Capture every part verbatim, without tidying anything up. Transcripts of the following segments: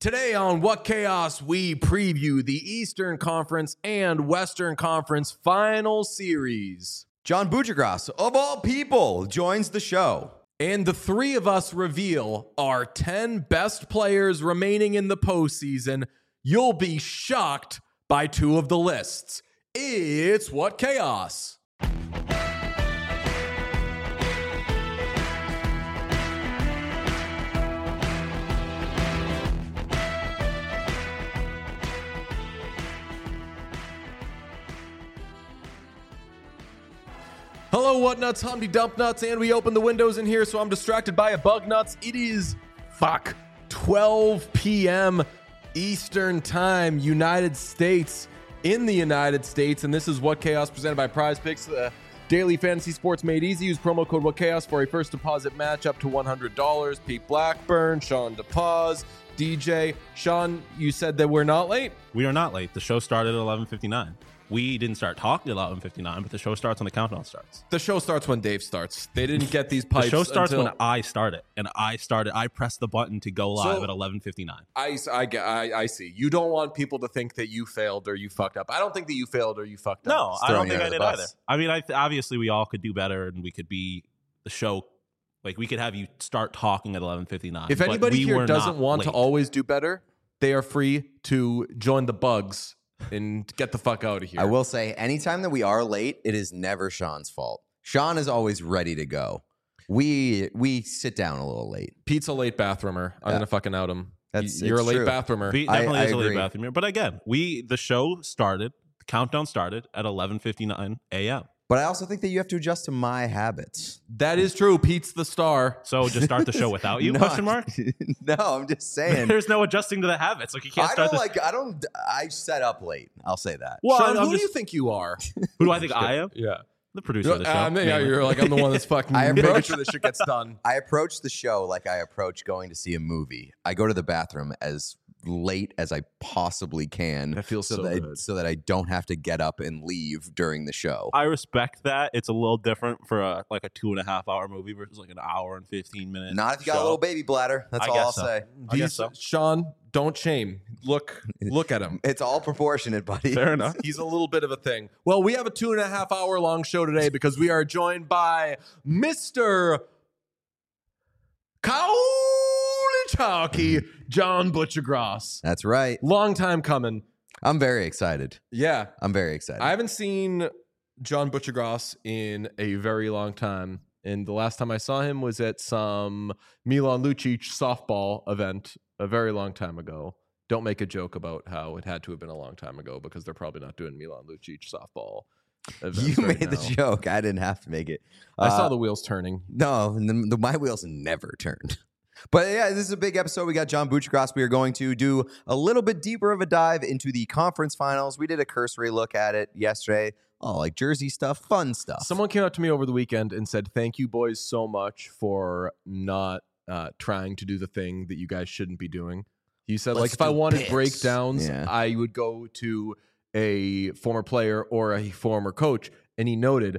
Today on What Chaos, we preview the Eastern Conference and Western Conference final series. John Buccigross, of all people, joins the show. And the three of us reveal our ten best players remaining in the postseason. You'll be shocked by two of the lists. It's What Chaos. Hello, What Nuts, Humpty Dump Nuts, and we open the windows in here, so I'm distracted by a bug nuts. It is, fuck, twelve p.m. Eastern Time, United States, in the United States, and this is What Chaos presented by Prize Picks, uh, daily fantasy sports made easy. Use promo code What Chaos for a first deposit match up to one hundred dollars. Pete Blackburn, Sean DePaz, D J. Sean, you said that we're not late? We are not late. The show started at eleven fifty-nine. We didn't start talking at eleven fifty-nine, but the show starts when the countdown starts. The show starts when Dave starts. They didn't get these pipes. The show starts until... when I started, and I started. I pressed the button to go live So, at eleven fifty-nine. I, I, I, I see. You don't want people to think that you failed or you fucked up. I don't think that you failed or you fucked No, up. I don't throwing think you I under did the either. bus. I mean, I th- obviously we all could do better, and we could be the show. Like we could have you start talking at eleven fifty-nine. If but anybody we here were doesn't not want to late. always do better, they are free to join the bugs and get the fuck out of here. I will say, anytime that we are late, it is never Sean's fault. Sean is always ready to go. We we sit down a little late. Pete's a late bathroomer. I'm Yeah. gonna fucking out him. That's- You're a it's late true. bathroomer. We I- definitely I is a late agree. bathroom here. But again, we the show started. The countdown started at eleven fifty-nine a.m. But I also think that you have to adjust to my habits. That is true. Pete's the star. So just start the show without you? No, Question mark. no, I'm just saying. There's no adjusting to the habits. Like you can't I start don't this. like. I don't. I set up late. I'll say that. Well, Sean, I'm who do just- you think you are? Who do I think I am? Yeah. The producer of the show. Um, yeah, mainly. you're like, I'm the one that's fucking I making approach- sure this shit gets done. I approach the show like I approach going to see a movie. I go to the bathroom as late as I possibly can. That feels so that I, good. so that I don't have to get up and leave during the show. I respect that. It's a little different for a like a two and a half hour movie versus like an hour and fifteen minutes. Not if you got show. a little baby bladder. That's I all guess I'll so. say. I guess These, so. Sean, don't shame. Look, look at him. It's all proportionate, buddy. Fair enough. He's a little bit of a thing. Well, we have a two and a half hour long show today because we are joined by Mister Cowley John Buccigross. That's right. Long time coming. I'm very excited. Yeah. I'm very excited. I haven't seen John Buccigross in a very long time. And the last time I saw him was at some Milan Lucic softball event a very long time ago. Don't make a joke about how it had to have been a long time ago because they're probably not doing Milan Lucic softball events you right made the now. joke. I didn't have to make it. I saw Uh, the wheels turning. No, the, the, my wheels never turned. But yeah, this is a big episode. We got John Buccigross. We are going to do a little bit deeper of a dive into the conference finals. We did a cursory look at it yesterday. Oh, like jersey stuff, fun stuff. Someone came up to me over the weekend and said, thank you boys so much for not uh, trying to do the thing that you guys shouldn't be doing. You said, Let's like, if I do wanted picks. breakdowns, Yeah. I would go to a former player or a former coach. And he noted,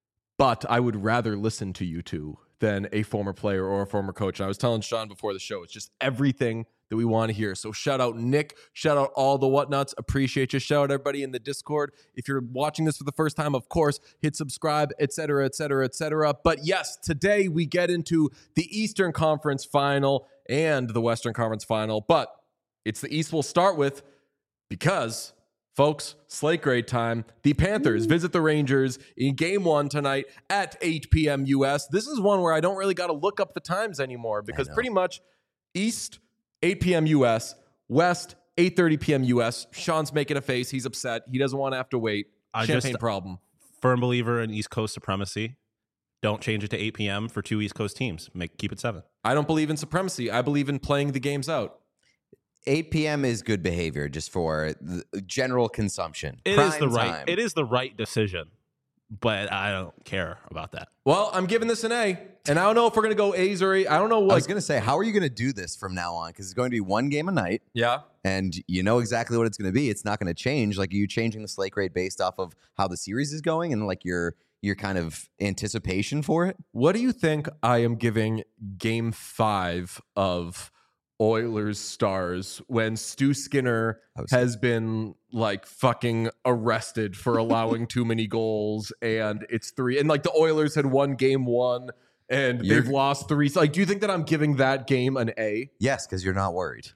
but I would rather listen to you two than a former player or a former coach. And I was telling Sean before the show, it's just everything that we want to hear. So shout out Nick, shout out all the Whatnuts. Appreciate you. Shout out everybody in the Discord. If you're watching this for the first time, of course, hit subscribe, et cetera, et cetera, et cetera. But yes, today we get into the Eastern Conference Final and the Western Conference Final. But it's the East we'll start with because, folks, slate grade time. The Panthers visit the Rangers in game one tonight at eight p.m. U S. This is one where I don't really got to look up the times anymore because know. pretty much East, eight p.m. U S, West, eight thirty p.m. U S. Sean's making a face. He's upset. He doesn't want to have to wait. I Champagne just- problem. Firm believer in East Coast supremacy. Don't change it to eight p.m. for two East Coast teams. Make keep it seven. I don't believe in supremacy. I believe in playing the games out. eight p.m. is good behavior just for the general consumption. It is Prime the right. time. It is the right decision, but I don't care about that. Well, I'm giving this an A, and I don't know if we're going to go A's or A. I don't know I what. was going to say, how are you going to do this from now on? Because it's going to be one game a night, yeah. and you know exactly what it's going to be. It's not going to change. Like, are you changing the slate grade based off of how the series is going and like your your kind of anticipation for it? What do you think I am giving game five of Oilers Stars when Stu Skinner was- has been like fucking arrested for allowing too many goals, and it's three, and like the Oilers had won game one and You're- they've lost three. So, like, do you think that I'm giving that game an A? Yes, because you're not worried.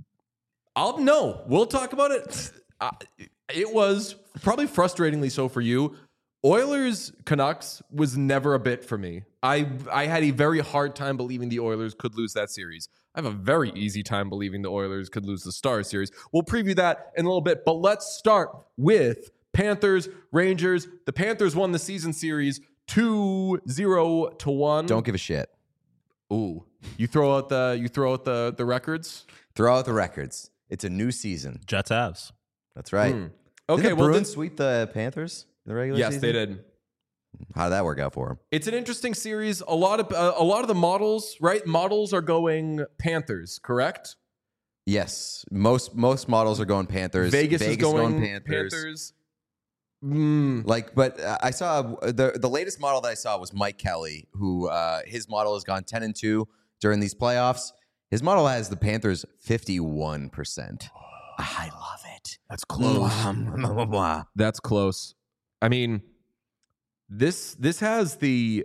I'll no. We'll talk about it. Uh, it was probably frustratingly so for you. Oilers Canucks was never a bit for me. I I had a very hard time believing the Oilers could lose that series. I have a very easy time believing the Oilers could lose the Stars series. We'll preview that in a little bit, but let's start with Panthers, Rangers. The Panthers won the season series two zero to one. Don't give a shit. Ooh. You throw out the you throw out the the records? Throw out the records. It's a new season. Jets Avs. That's right. Hmm. Did Okay, the well, Bruins then- sweep the Panthers in the regular yes, season? they did. How did that work out for them? It's an interesting series. A lot of uh, a lot of the models, right? Models are going Panthers, correct? Yes, most most models are going Panthers. Vegas, is going, Panthers. Panthers. Mm. Like, but uh, I saw the the latest model that I saw was Mike Kelly, who uh, his model has gone ten and two during these playoffs. His model has the Panthers fifty one percent. I love it. That's Mwah. That's close. I mean, this this has the.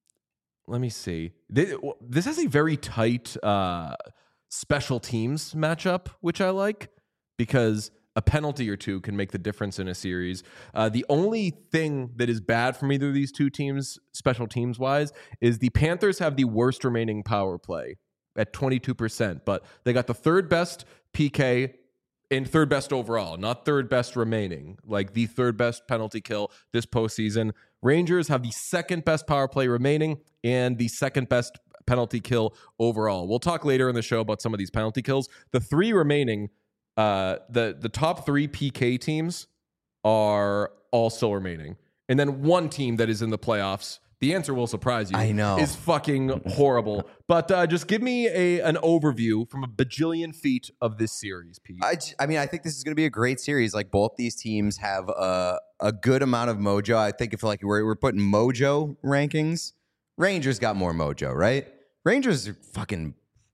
Let me see. This, this has a very tight uh, special teams matchup, which I like because a penalty or two can make the difference in a series. Uh, the only thing that is bad from either of these two teams, special teams wise, is the Panthers have the worst remaining power play at twenty-two percent, but they got the third best P K and third best overall, not third best remaining, like the third best penalty kill this postseason. Rangers have the second best power play remaining and the second best penalty kill overall. We'll talk later in the show about some of these penalty kills. The three remaining, uh, the the top three P K teams are all still remaining, and then one team that is in the playoffs. The answer will surprise you. I know. Is fucking horrible. But uh, just give me a an overview from a bajillion feet of this series, Pete. I, j- I mean, I think this is going to be a great series. Like, both these teams have a, a good amount of mojo. I think if like we're, we're putting mojo rankings, Rangers got more mojo, right? Rangers are fucking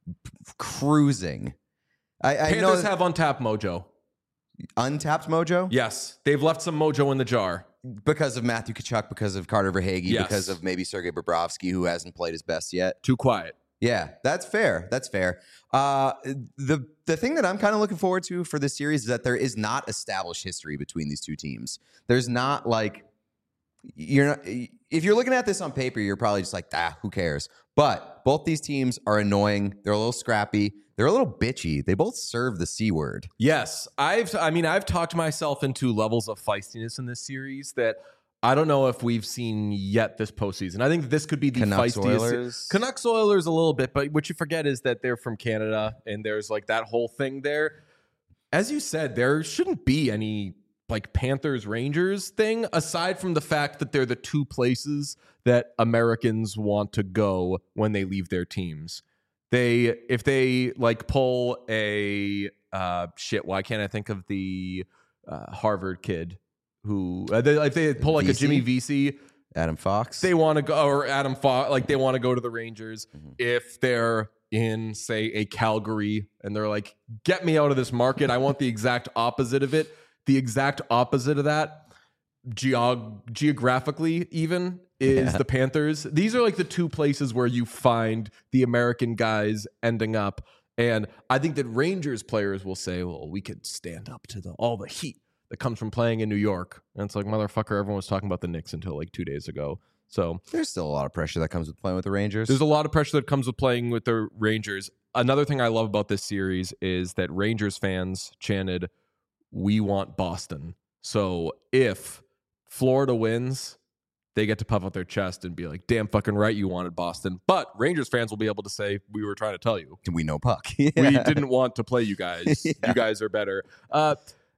cruising. I, I know Panthers that- have untapped mojo. untapped mojo Yes, they've left some mojo in the jar. because of Matthew Tkachuk, because of Carter Verhaeghe, Yes. because of maybe Sergei Bobrovsky, who hasn't played his best yet. Too quiet. Yeah, that's fair. That's fair. Uh, the the thing that I'm kind of looking forward to for this series is that there is not established history between these two teams. There's not like you're not, if you're looking at this on paper, you're probably just like, ah, who cares? But both these teams are annoying. They're a little scrappy. They're a little bitchy. They both serve the C word. Yes, I've. I mean, I've talked myself into levels of feistiness in this series that I don't know if we've seen yet this postseason. I think this could be the Canucks feistiest. Oilers. Canucks Oilers a little bit, but what you forget is that they're from Canada and there's like that whole thing there. As you said, there shouldn't be any like Panthers Rangers thing aside from the fact that they're the two places that Americans want to go when they leave their teams. They if they like pull a uh, shit. Why can't I think of the uh, Harvard kid who uh, they, if they pull like a V C? Jimmy Vesey? Adam Fox. They want to go, or Adam Fox, like they want to go to the Rangers. Mhm. If they're in, say, a Calgary and they're like, get me out of this market. I want the exact opposite of it. The exact opposite of that, geog- geographically even, is Yeah. the Panthers. These are like the two places where you find the American guys ending up. And I think that Rangers players will say, well, we could stand up to the all the heat that comes from playing in New York. And it's like, motherfucker, everyone was talking about the Knicks until like two days ago. So There's still a lot of pressure that comes with playing with the Rangers. there's a lot of pressure that comes with playing with the Rangers. Another thing I love about this series is that Rangers fans chanted, we want Boston. So if Florida wins, they get to puff out their chest and be like, damn fucking right you wanted Boston. But Rangers fans will be able to say, we were trying to tell you. we know puck. We didn't want to play you guys. Yeah. You guys are better. Uh,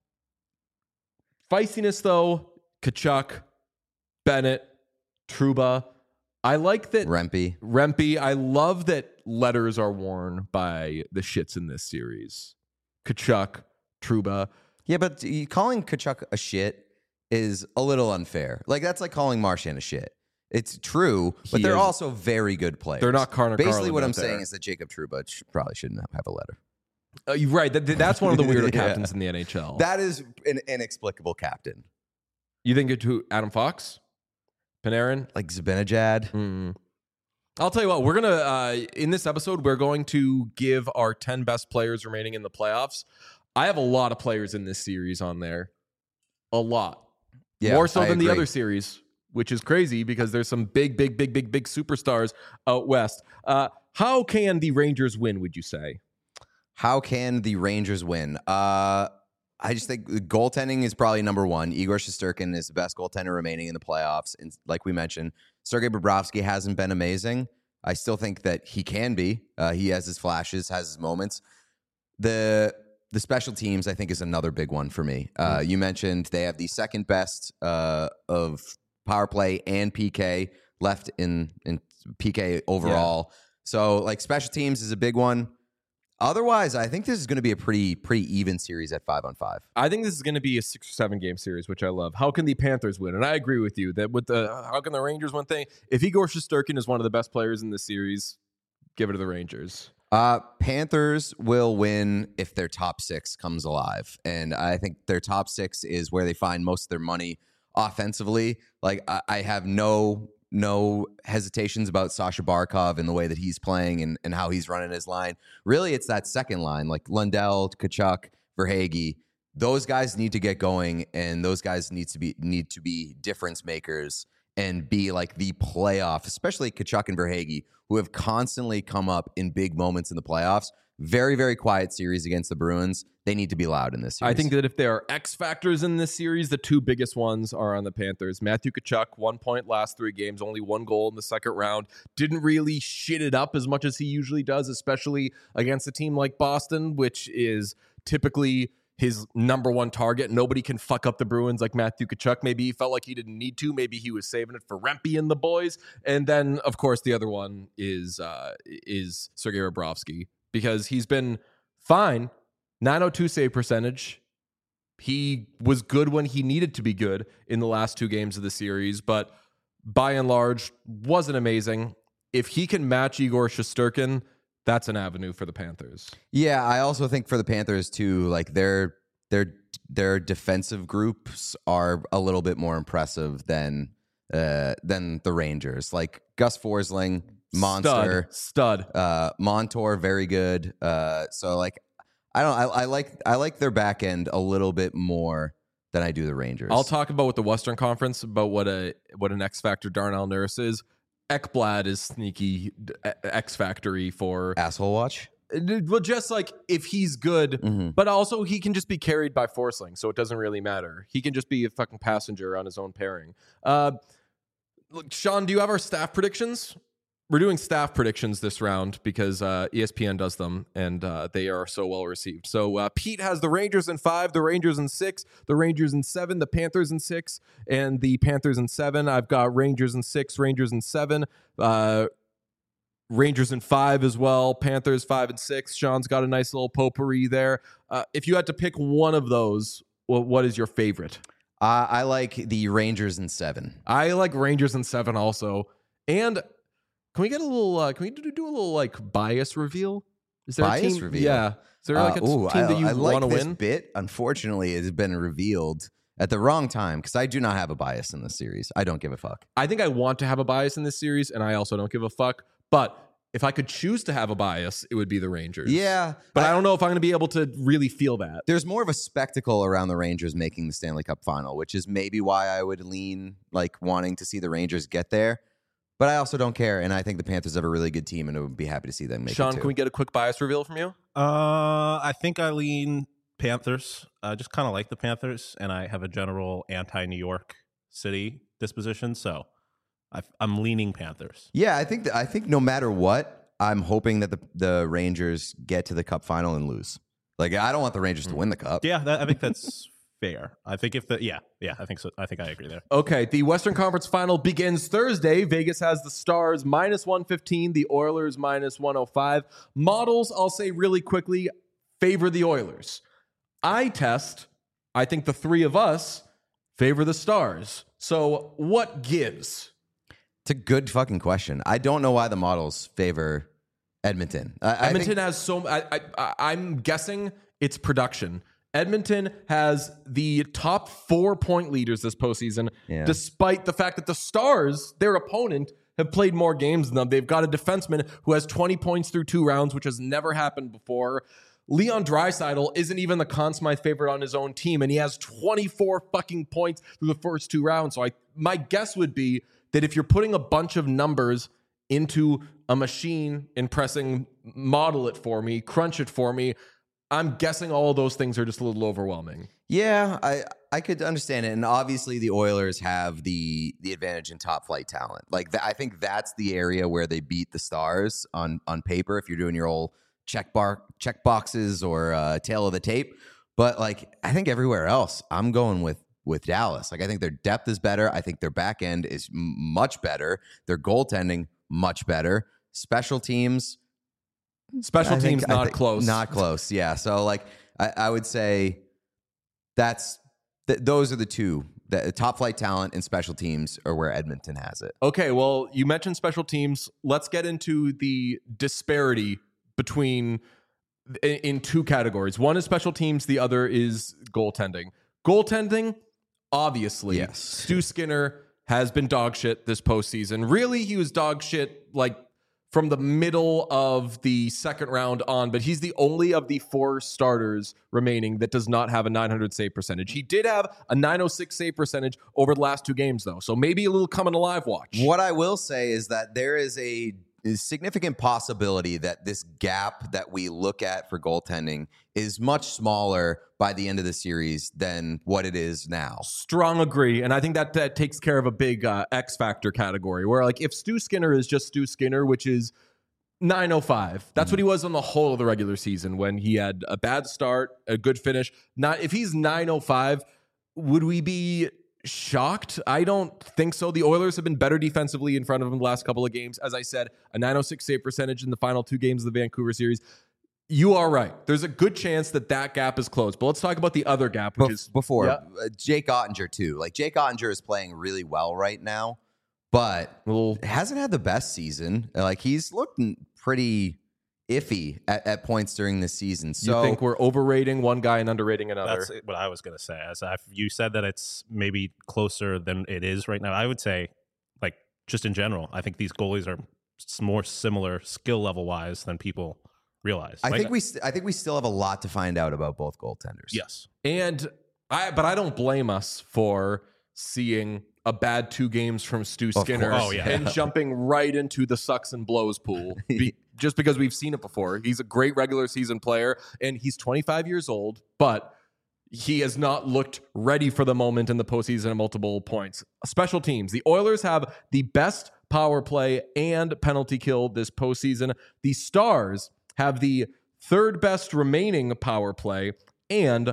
feistiness, though, Kachuk, Bennett, Trouba. I like that. Rempe. Rempe, I love that letters are worn by the shits in this series. Kachuk, Trouba. Yeah, but you- calling Kachuk a shit is a little unfair. Like, that's like calling Marchand a shit. It's true, but He they're is- also very good players. They're not Connor Basically, Garland what out I'm there. saying is that Jacob Trouba sh- probably shouldn't have a letter. Uh, you're right. That, that's one of the weirder Yeah. captains in the N H L. That is an inexplicable captain. You think it to Adam Fox? Panarin? Like Zibanejad. Mm. I'll tell you what, we're going to, uh, in this episode, we're going to give our ten best players remaining in the playoffs. I have a lot of players in this series on there. A lot. Yeah, More so I than the agree. other series, which is crazy because there's some big, big, big, big, big superstars out west. Uh, how can the Rangers win, would you say? How can the Rangers win? Uh, I just think the goaltending is probably number one. Igor Shesterkin is the best goaltender remaining in the playoffs. And like we mentioned, Sergei Bobrovsky hasn't been amazing. I still think that he can be. Uh, he has his flashes, has his moments. The the special teams, I think, is another big one for me. Uh, you mentioned they have the second best uh, of power play and P K left in, in P K overall. So, like, special teams is a big one. Otherwise, I think this is going to be a pretty pretty even series at five on five. I think this is going to be a six or seven game series, which I love. How can the Panthers win? And I agree with you that with the how can the Rangers win thing? If Igor Shesterkin is one of the best players in the series, give it to the Rangers. Uh, Panthers will win if their top six comes alive. And I think their top six is where they find most of their money offensively. Like, I, I have no no hesitations about Sasha Barkov and the way that he's playing and, and how he's running his line. Really, it's that second line, like Lundell, Tkachuk, Verhaeghe. Those guys need to get going, and those guys need to be need to be difference makers and be like the playoff, especially Tkachuk and Verhaeghe, who have constantly come up in big moments in the playoffs. Very, very quiet series against the Bruins. They need to be loud in this series. I think that if there are X factors in this series, the two biggest ones are on the Panthers. Matthew Tkachuk, one point last three games, only one goal in the second round. Didn't really shit it up as much as he usually does, especially against a team like Boston, which is typically his number one target. Nobody can fuck up the Bruins like Matthew Tkachuk. Maybe he felt like he didn't need to. Maybe he was saving it for Rempe and the boys. And then, of course, the other one is uh, is Sergei Bobrovsky, because he's been fine. nine oh two save percentage. He was good when he needed to be good in the last two games of the series, but by and large, wasn't amazing. If he can match Igor Shesterkin, that's an avenue for the Panthers. Yeah, I also think for the Panthers too, like their their their defensive groups are a little bit more impressive than uh, than the Rangers. Like Gus Forsling, monster, Stud. Stud. uh, Montour, very good. Uh, so like, I don't, I, I like I like their back end a little bit more than I do the Rangers. I'll talk about with the Western Conference about what a what an X factor Darnell Nurse is. Ekblad is sneaky X factory for asshole watch. Well, just like if he's good, Mm-hmm. but also he can just be carried by Forsling, so it doesn't really matter. He can just be a fucking passenger on his own pairing. Uh, look, Sean, do you have our staff predictions? We're doing staff predictions this round because uh, E S P N does them, and uh, they are so well received. So uh, Pete has the Rangers in five, the Rangers in six, the Rangers in seven, the Panthers in six, and the Panthers in seven. I've got Rangers in six, Rangers in seven, uh, Rangers in five as well, Panthers five and six. Sean's got a nice little potpourri there. Uh, if you had to pick one of those, well, what is your favorite? Uh, I like the Rangers in seven. I like Rangers in seven also, and. Can we get a little? Uh, can we do, do a little like bias reveal? Is there Bias a team? reveal? Yeah. Is there like a Uh, ooh, team I, that you I like want to this win? bit. Unfortunately, it has been revealed at the wrong time because I do not have a bias in this series. I don't give a fuck. I think I want to have a bias in this series, and I also don't give a fuck. But if I could choose to have a bias, it would be the Rangers. Yeah, But I, I don't know if I'm going to be able to really feel that. There's more of a spectacle around the Rangers making the Stanley Cup final, which is maybe why I would lean like wanting to see the Rangers get there. But I also don't care, and I think the Panthers have a really good team, and I would be happy to see them make Sean, it too. can we get a quick bias reveal from you? Uh, I think I lean Panthers. I just kind of like the Panthers, and I have a general anti-New York City disposition, so I, I'm leaning Panthers. Yeah, I think that, I think no matter what, I'm hoping that the the Rangers get to the Cup final and lose. Like I don't want the Rangers to win the Cup. Yeah, that, I think that's fair. I think if the yeah yeah I think so. I think I agree there. Okay, the Western Conference Final begins Thursday. Vegas has the Stars minus one fifteen, the Oilers minus one oh five. Models, I'll say really quickly, favor the Oilers. Eye test, I think the three of us favor the Stars. So what gives? It's a good fucking question. I don't know why the models favor Edmonton. I, Edmonton I think, has so. I, I, I'm guessing it's production. Edmonton has the top four point leaders this postseason, Yeah. despite the fact that the Stars, their opponent, have played more games than them. They've got a defenseman who has twenty points through two rounds, which has never happened before. Leon Draisaitl isn't even the Conn Smythe favorite on his own team, and he has twenty-four fucking points through the first two rounds. So I, my guess would be that if you're putting a bunch of numbers into a machine and pressing model it for me, crunch it for me, I'm guessing all of those things are just a little overwhelming. yeah, I, I could understand it. And obviously the Oilers have the the advantage in top flight talent. Like th- I think that's the area where they beat the Stars on on paper if you're doing your old check bar check boxes or uh, tail of the tape. But like I think everywhere else, I'm going with with Dallas. Like I think their depth is better. I think their back end is m- much better. Their goaltending much better. Special teams. Special I think- teams I not think- close. Not close. Yeah. So like I, I would say that's th- those are the two. The top flight talent and special teams are where Edmonton has it. Okay, well, you mentioned special teams. Let's get into the disparity between in, in two categories. One is special teams, the other is goaltending. Goaltending, obviously, Yes. Stu Skinner has been dog shit this postseason. Really, he was dog shit like from the middle of the second round on, but he's the only of the four starters remaining that does not have a nine hundred save percentage. He did have a nine oh six save percentage over the last two games, though, so maybe a little coming alive watch. What I will say is that there is a significant possibility that this gap that we look at for goaltending is much smaller by the end of the series than what it is now. Strong agree, and I think that that takes care of a big uh, X factor category where, like, if Stu Skinner is just Stu Skinner, which is nine oh five, that's what he was on the whole of the regular season when he had a bad start, a good finish. Not if he's nine oh five, would we be shocked? I don't think so. The Oilers have been better defensively in front of him the last couple of games. As I said, a nine oh six save percentage in the final two games of the Vancouver series. You are right. There's a good chance that that gap is closed. But let's talk about the other gap, which Bef- is before Yeah. uh, Jake Ottinger too. Like Jake Ottinger is playing really well right now, but a little hasn't had the best season. Like he's looked pretty iffy at, at points during this season. So you think we're overrating one guy and underrating another? That's what I was going to say. As I, you said that it's maybe closer than it is right now. I would say, like, just in general, I think these goalies are s- more similar skill level wise than people realize. I Like, think we st- I think we still have a lot to find out about both goaltenders. yes. And I, but I don't blame us for seeing a bad two games from Stu Skinner course. Oh, yeah. and jumping right into the sucks and blows pool. Be, just because we've seen it before. He's a great regular season player, and he's twenty-five years old, but he has not looked ready for the moment in the postseason at multiple points. Special teams. The Oilers have the best power play and penalty kill this postseason. The Stars have the third best remaining power play and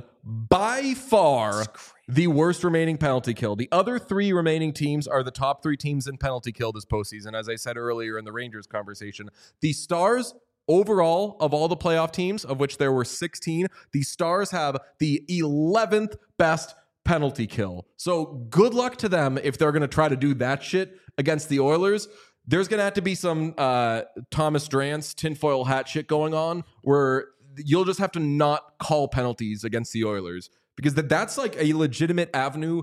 by far the worst remaining penalty kill. The other three remaining teams are the top three teams in penalty kill this postseason, as I said earlier in the Rangers conversation. The Stars, overall, of all the playoff teams, of which there were sixteen, the Stars have the eleventh best penalty kill. So good luck to them if they're going to try to do that shit against the Oilers. There's going to have to be some uh, Thomas Drance tinfoil hat shit going on where you'll just have to not call penalties against the Oilers because that, that's like a legitimate avenue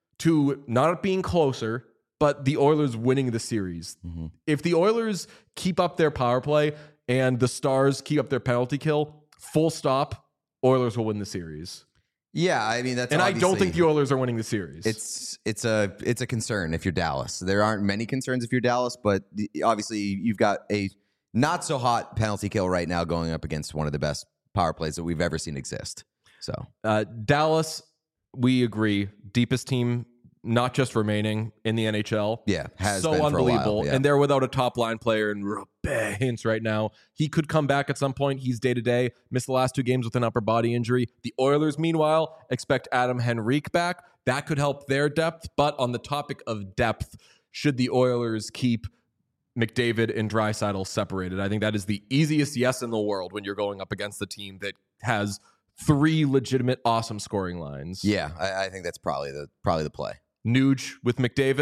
to not being closer, but the Oilers winning the series. Mm-hmm. If the Oilers keep up their power play and the Stars keep up their penalty kill, full stop, Oilers will win the series. Yeah, I mean that's and I don't obviously- think the Oilers are winning the series. It's it's a it's a concern if you're Dallas. There aren't many concerns if you're Dallas, but the, obviously you've got a not so hot penalty kill right now going up against one of the best power plays that we've ever seen exist. So uh, Dallas, we agree, deepest team, not just remaining in the N H L. yeah, has so been for a while, unbelievable. yeah. And they're without a top line player and hints right now. He could come back at some point. He's day to day. Missed the last two games with an upper body injury. The Oilers, meanwhile, expect Adam Henrique back. That could help their depth. But on the topic of depth, should the Oilers keep McDavid and Draisaitl separated? I think that is the easiest yes in the world when you're going up against the team that has three legitimate, awesome scoring lines. yeah, I, I think that's probably the probably the play. Nuge with McDavid,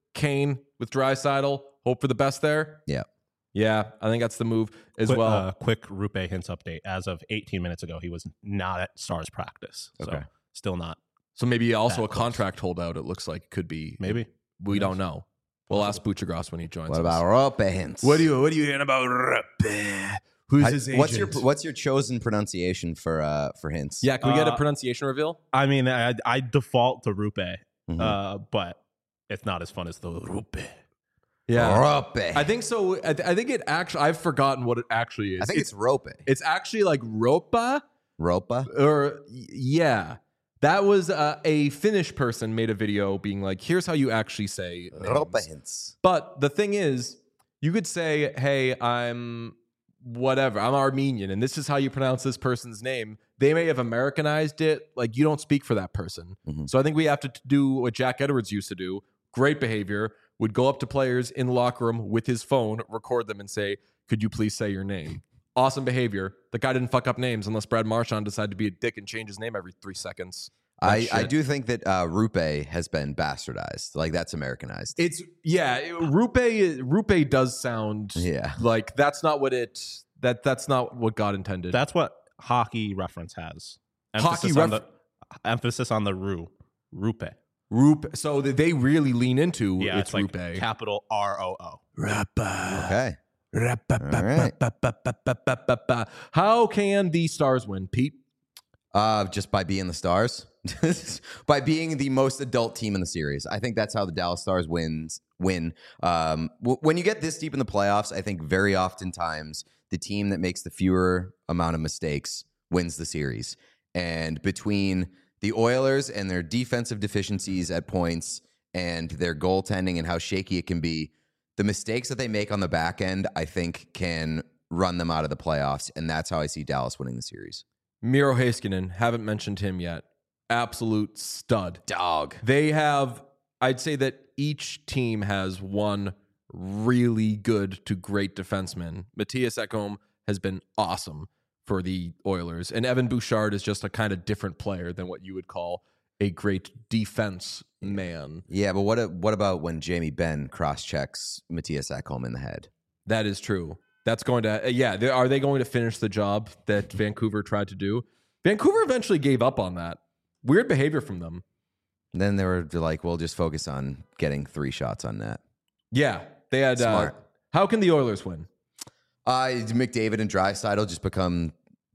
Kane with Draisaitl. Hope for the best there. Yeah. Yeah, I think that's the move as quick, well. Uh, quick Rupe Hintz update. As of eighteen minutes ago, he was not at Stars practice. So Okay. still not. So maybe also that a close. contract holdout. It looks like could be. Maybe. We don't know. We'll ask Buchagras when he joins What us. about Rope Hintz? What do you What are you hearing about Rupe? Who's I- his agent? what's your What's your chosen pronunciation for uh for Hintz? Yeah, can we get a Uh, pronunciation reveal? I mean, I, I default to Rupe, Mhm. uh, but it's not as fun as the Rupe. Rope. I think so. I, th- I think it actually. I've forgotten what it actually is. I think it's, Rope. it's actually like Ropa Ropa. or y- yeah. That was uh, a Finnish person made a video being like, "Here's how you actually say Rope names." Hintz. But the thing is, you could say, "Hey, I'm whatever. I'm Armenian, and this is how you pronounce this person's name." They may have Americanized it. Like you don't speak for that person. Mhm. So I think we have to t- do what Jack Edwards used to do. Great behavior. Would go up to players in the locker room with his phone, record them, and say, "Could you please say your name?" Awesome behavior. The guy didn't fuck up names unless Brad Marchand decided to be a dick and change his name every three seconds. That I, I shit. do think that uh, Rupe has been bastardized. Like that's Americanized. It's yeah. it- Rupe Rupe does sound Yeah. like that's not what it that that's not what God intended. That's what hockey reference has. Hockey Emphasis on ref- the emphasis on the Ru. Rupe. Rupe. So that they really lean into Yeah, it's, it's, like Rupe. capital R O O. Rupe. Okay. Ra-pa-pa-pa-pa-pa-pa-pa-pa. How can the Stars win, Pete? Uh, just by being the Stars, by being the most adult team in the series. I think that's how the Dallas Stars wins. Win. Um, w- when you get this deep in the playoffs, I think very oftentimes the team that makes the fewer amount of mistakes wins the series. And between the Oilers and their defensive deficiencies at points and their goaltending and how shaky it can be, the mistakes that they make on the back end, I think, can run them out of the playoffs. And that's how I see Dallas winning the series. Miro Heiskanen, haven't mentioned him yet. Absolute stud. Dog. They have, I'd say that each team has one really good to great defenseman. Matthias Ekholm has been awesome for the Oilers, and Evan Bouchard is just a kind of different player than what you would call a great defense man. Yeah, but what what about when Jamie Benn cross-checks Matthias Ekholm in the head? That is true. That's going to, uh, yeah, they, are they going to finish the job that Vancouver tried to do? Vancouver eventually gave up on that. Weird behavior from them. And then they were like, we'll just focus on getting three shots on net. Yeah, they had, uh, Smart. how can the Oilers win? Uh, McDavid and Draisaitl just become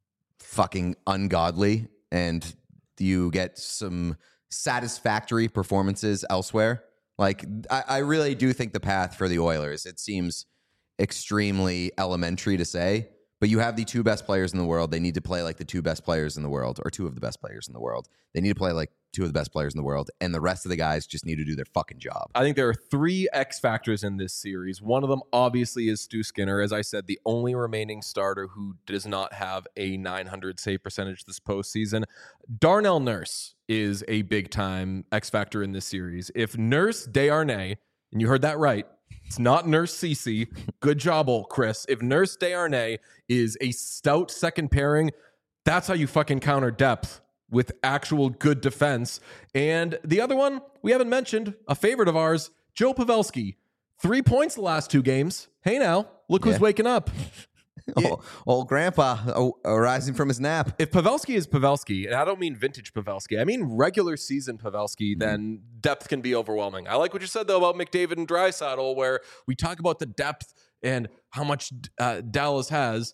fucking ungodly, and you get some satisfactory performances elsewhere. Like, I, I really do think the path for the Oilers, it seems extremely elementary to say, but you have the two best players in the world. They need to play like the two best players in the world, or two of the best players in the world. They need to play like two of the best players in the world, and the rest of the guys just need to do their fucking job. I think there are three X factors in this series. One of them obviously is Stu Skinner. As I said, the only remaining starter who does not have a nine hundred save percentage this postseason. Darnell Nurse is a big time X factor in this series. If Nurse Desharnais, and you heard that right, it's not Nurse Cece. Good job, old Chris. If Nurse Desharnais is a stout second pairing, that's how you fucking counter depth with actual good defense. And the other one we haven't mentioned, a favorite of ours, Joe Pavelski. Three points the last two games. Hey now, look who's Yeah. waking up. Old, old grandpa oh, arising from his nap. If Pavelski is Pavelski, and I don't mean vintage Pavelski, I mean regular season Pavelski, Mm-hmm. then depth can be overwhelming. I like what you said, though, about McDavid and Draisaitl, where we talk about the depth and how much uh, Dallas has.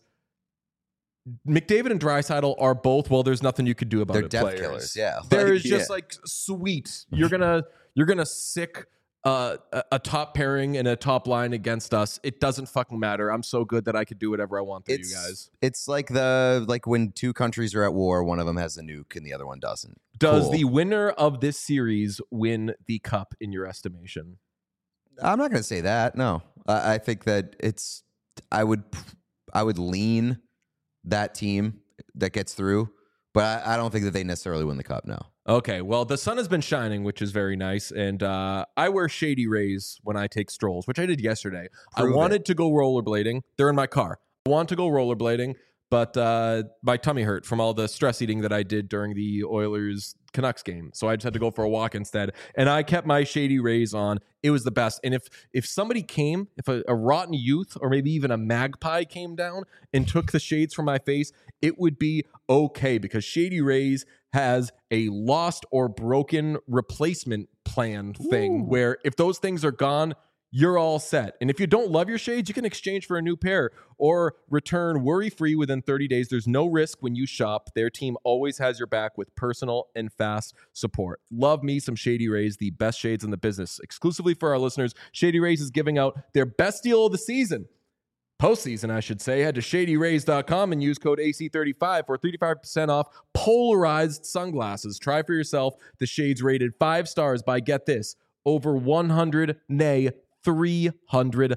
McDavid and Draisaitl are both, well, there's nothing you could do about They're it. depth players. killers, yeah. There Like, is just yeah. like sweet. You're gonna you're gonna sick uh, a, a top pairing and a top line against us. It doesn't fucking matter. I'm so good that I could do whatever I want to It's, you guys. it's like the like when two countries are at war, one of them has a nuke and the other one doesn't. Does Cool. the winner of this series win the cup in your estimation? I'm not going to say that. No, I I think that it's. I would, I would lean that team that gets through, but I, I don't think that they necessarily win the cup. No. Okay, well, the sun has been shining, which is very nice, and uh, I wear shady rays when I take strolls, which I did yesterday. Prove I wanted to go rollerblading. They're in my car. I want to go rollerblading, but uh, my tummy hurt from all the stress eating that I did during the Oilers Canucks game. So I just had to go for a walk instead. And I kept my Shady Rays on. It was the best. And if if somebody came, if a, a rotten youth or maybe even a magpie came down and took the shades from my face, it would be okay, because Shady Rays has a lost or broken replacement plan thing. Ooh. Where if those things are gone, you're all set. And if you don't love your shades, you can exchange for a new pair or return worry-free within thirty days. There's no risk when you shop. Their team always has your back with personal and fast support. Love me some Shady Rays, the best shades in the business. Exclusively for our listeners, Shady Rays is giving out their best deal of the season. Postseason, I should say. Head to shady rays dot com and use code A C thirty-five for thirty-five percent off polarized sunglasses. Try for yourself the shades rated five stars by, get this, over one hundred, nay, three hundred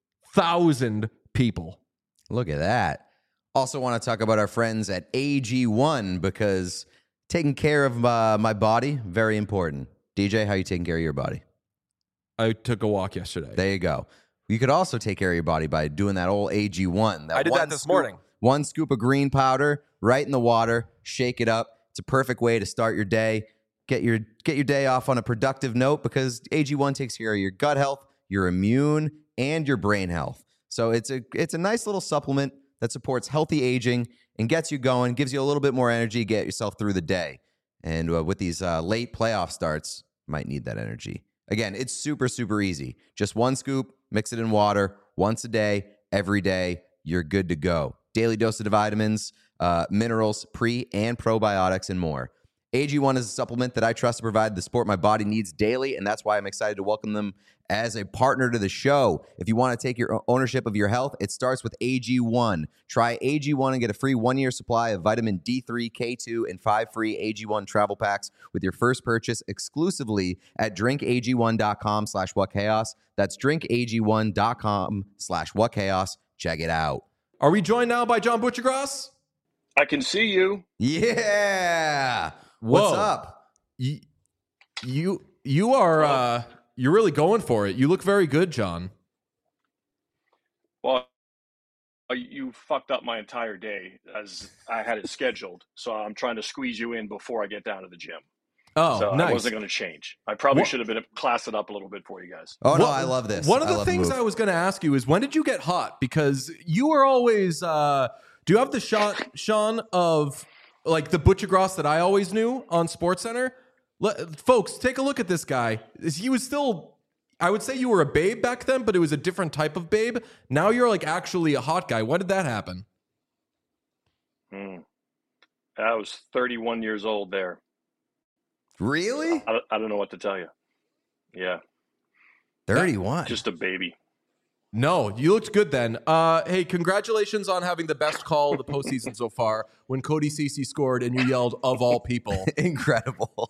thousand people. Look at that. Also want to talk about our friends at A G one, because taking care of uh, my body, very important. D J, how you taking care of your body? I took a walk yesterday. There you go. You could also take care of your body by doing that old A G one. That I did one that this scoop, morning. One scoop of green powder right in the water, shake it up. It's a perfect way to start your day. Get your get your day off on a productive note, because A G one takes care of your gut health, your immune, and your brain health. So it's a it's a nice little supplement that supports healthy aging and gets you going, gives you a little bit more energy, get yourself through the day. And uh, with these uh, late playoff starts, might need that energy. Again, it's super, super easy. Just one scoop, mix it in water once a day, every day. You're good to go. Daily dose of vitamins, uh, minerals, pre and probiotics, and more. A G one is a supplement that I trust to provide the support my body needs daily, and that's why I'm excited to welcome them as a partner to the show. If you want to take your ownership of your health, it starts with A G one. Try A G one and get a free one-year supply of vitamin D three, K two, and five free A G one travel packs with your first purchase exclusively at drinkag1.com slash whatchaos. That's drinkag1.com slash whatchaos. Check it out. Are we joined now by John Butchergrass? I can see you. Yeah. What's Whoa. up? You, you, you are, uh, you're really going for it. You look very good, John. Well, you fucked up my entire day as I had it scheduled. So I'm trying to squeeze you in before I get down to the gym. Oh, so nice. I wasn't going to change. I probably what? should have been classed it up a little bit for you guys. Oh, no, what, I love this. One of I the things the I was going to ask you is, when did you get hot? Because you were always, uh, do you have the shot, Sean, of like the Butchergrass that I always knew on SportsCenter? Let, folks, take a look at this guy. He was still, I would say you were a babe back then, but it was a different type of babe. Now you're like actually a hot guy. When did that happen? Hmm. I was thirty-one years old there. Really? I, I don't know what to tell you. Yeah. thirty-one. Just a baby. No, you looked good then. Uh, hey, congratulations on having the best call of the postseason so far when Cody Ceci scored and you yelled, "of all people." Incredible.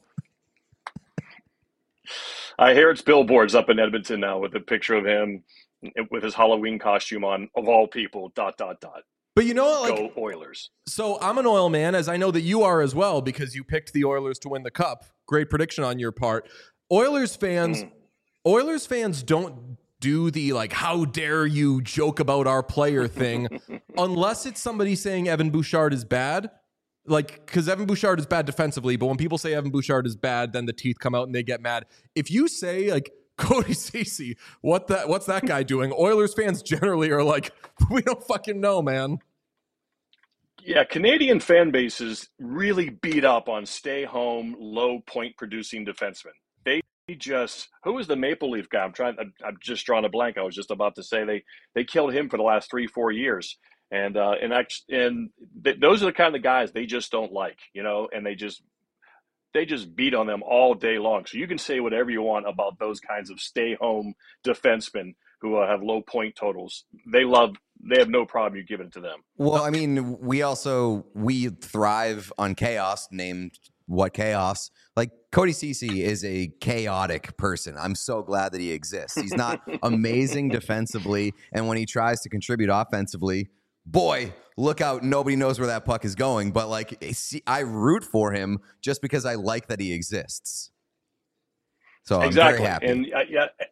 I hear it's billboards up in Edmonton now with a picture of him with his Halloween costume on, of all people, dot, dot, dot. But you know what? Like, go Oilers. So I'm an Oil man, as I know that you are as well, because you picked the Oilers to win the Cup. Great prediction on your part. Oilers fans, mm. Oilers fans don't do the like, how dare you joke about our player thing, unless it's somebody saying Evan Bouchard is bad. Like, because Evan Bouchard is bad defensively, but when people say Evan Bouchard is bad, then the teeth come out and they get mad. If you say like Cody Ceci, what that what's that guy doing? Oilers fans generally are like, we don't fucking know, man. Yeah, Canadian fan bases really beat up on stay-home, low point-producing defensemen. They just who was the Maple Leaf guy? I'm trying. I'm, I'm just drawing a blank. I was just about to say they they killed him for the last three, four years, and uh, and actually, and th- those are the kind of guys they just don't like, you know, and they just they just beat on them all day long. So you can say whatever you want about those kinds of stay-home defensemen who uh, have low point totals. They love. They have no problem you giving it to them. Well, I mean, we also we thrive on chaos. Named what chaos? Like Cody Ceci is a chaotic person. I'm so glad that he exists. He's not amazing defensively, and when he tries to contribute offensively, boy, look out! Nobody knows where that puck is going. But like, I root for him just because I like that he exists. So I'm exactly. very happy. And uh, yeah.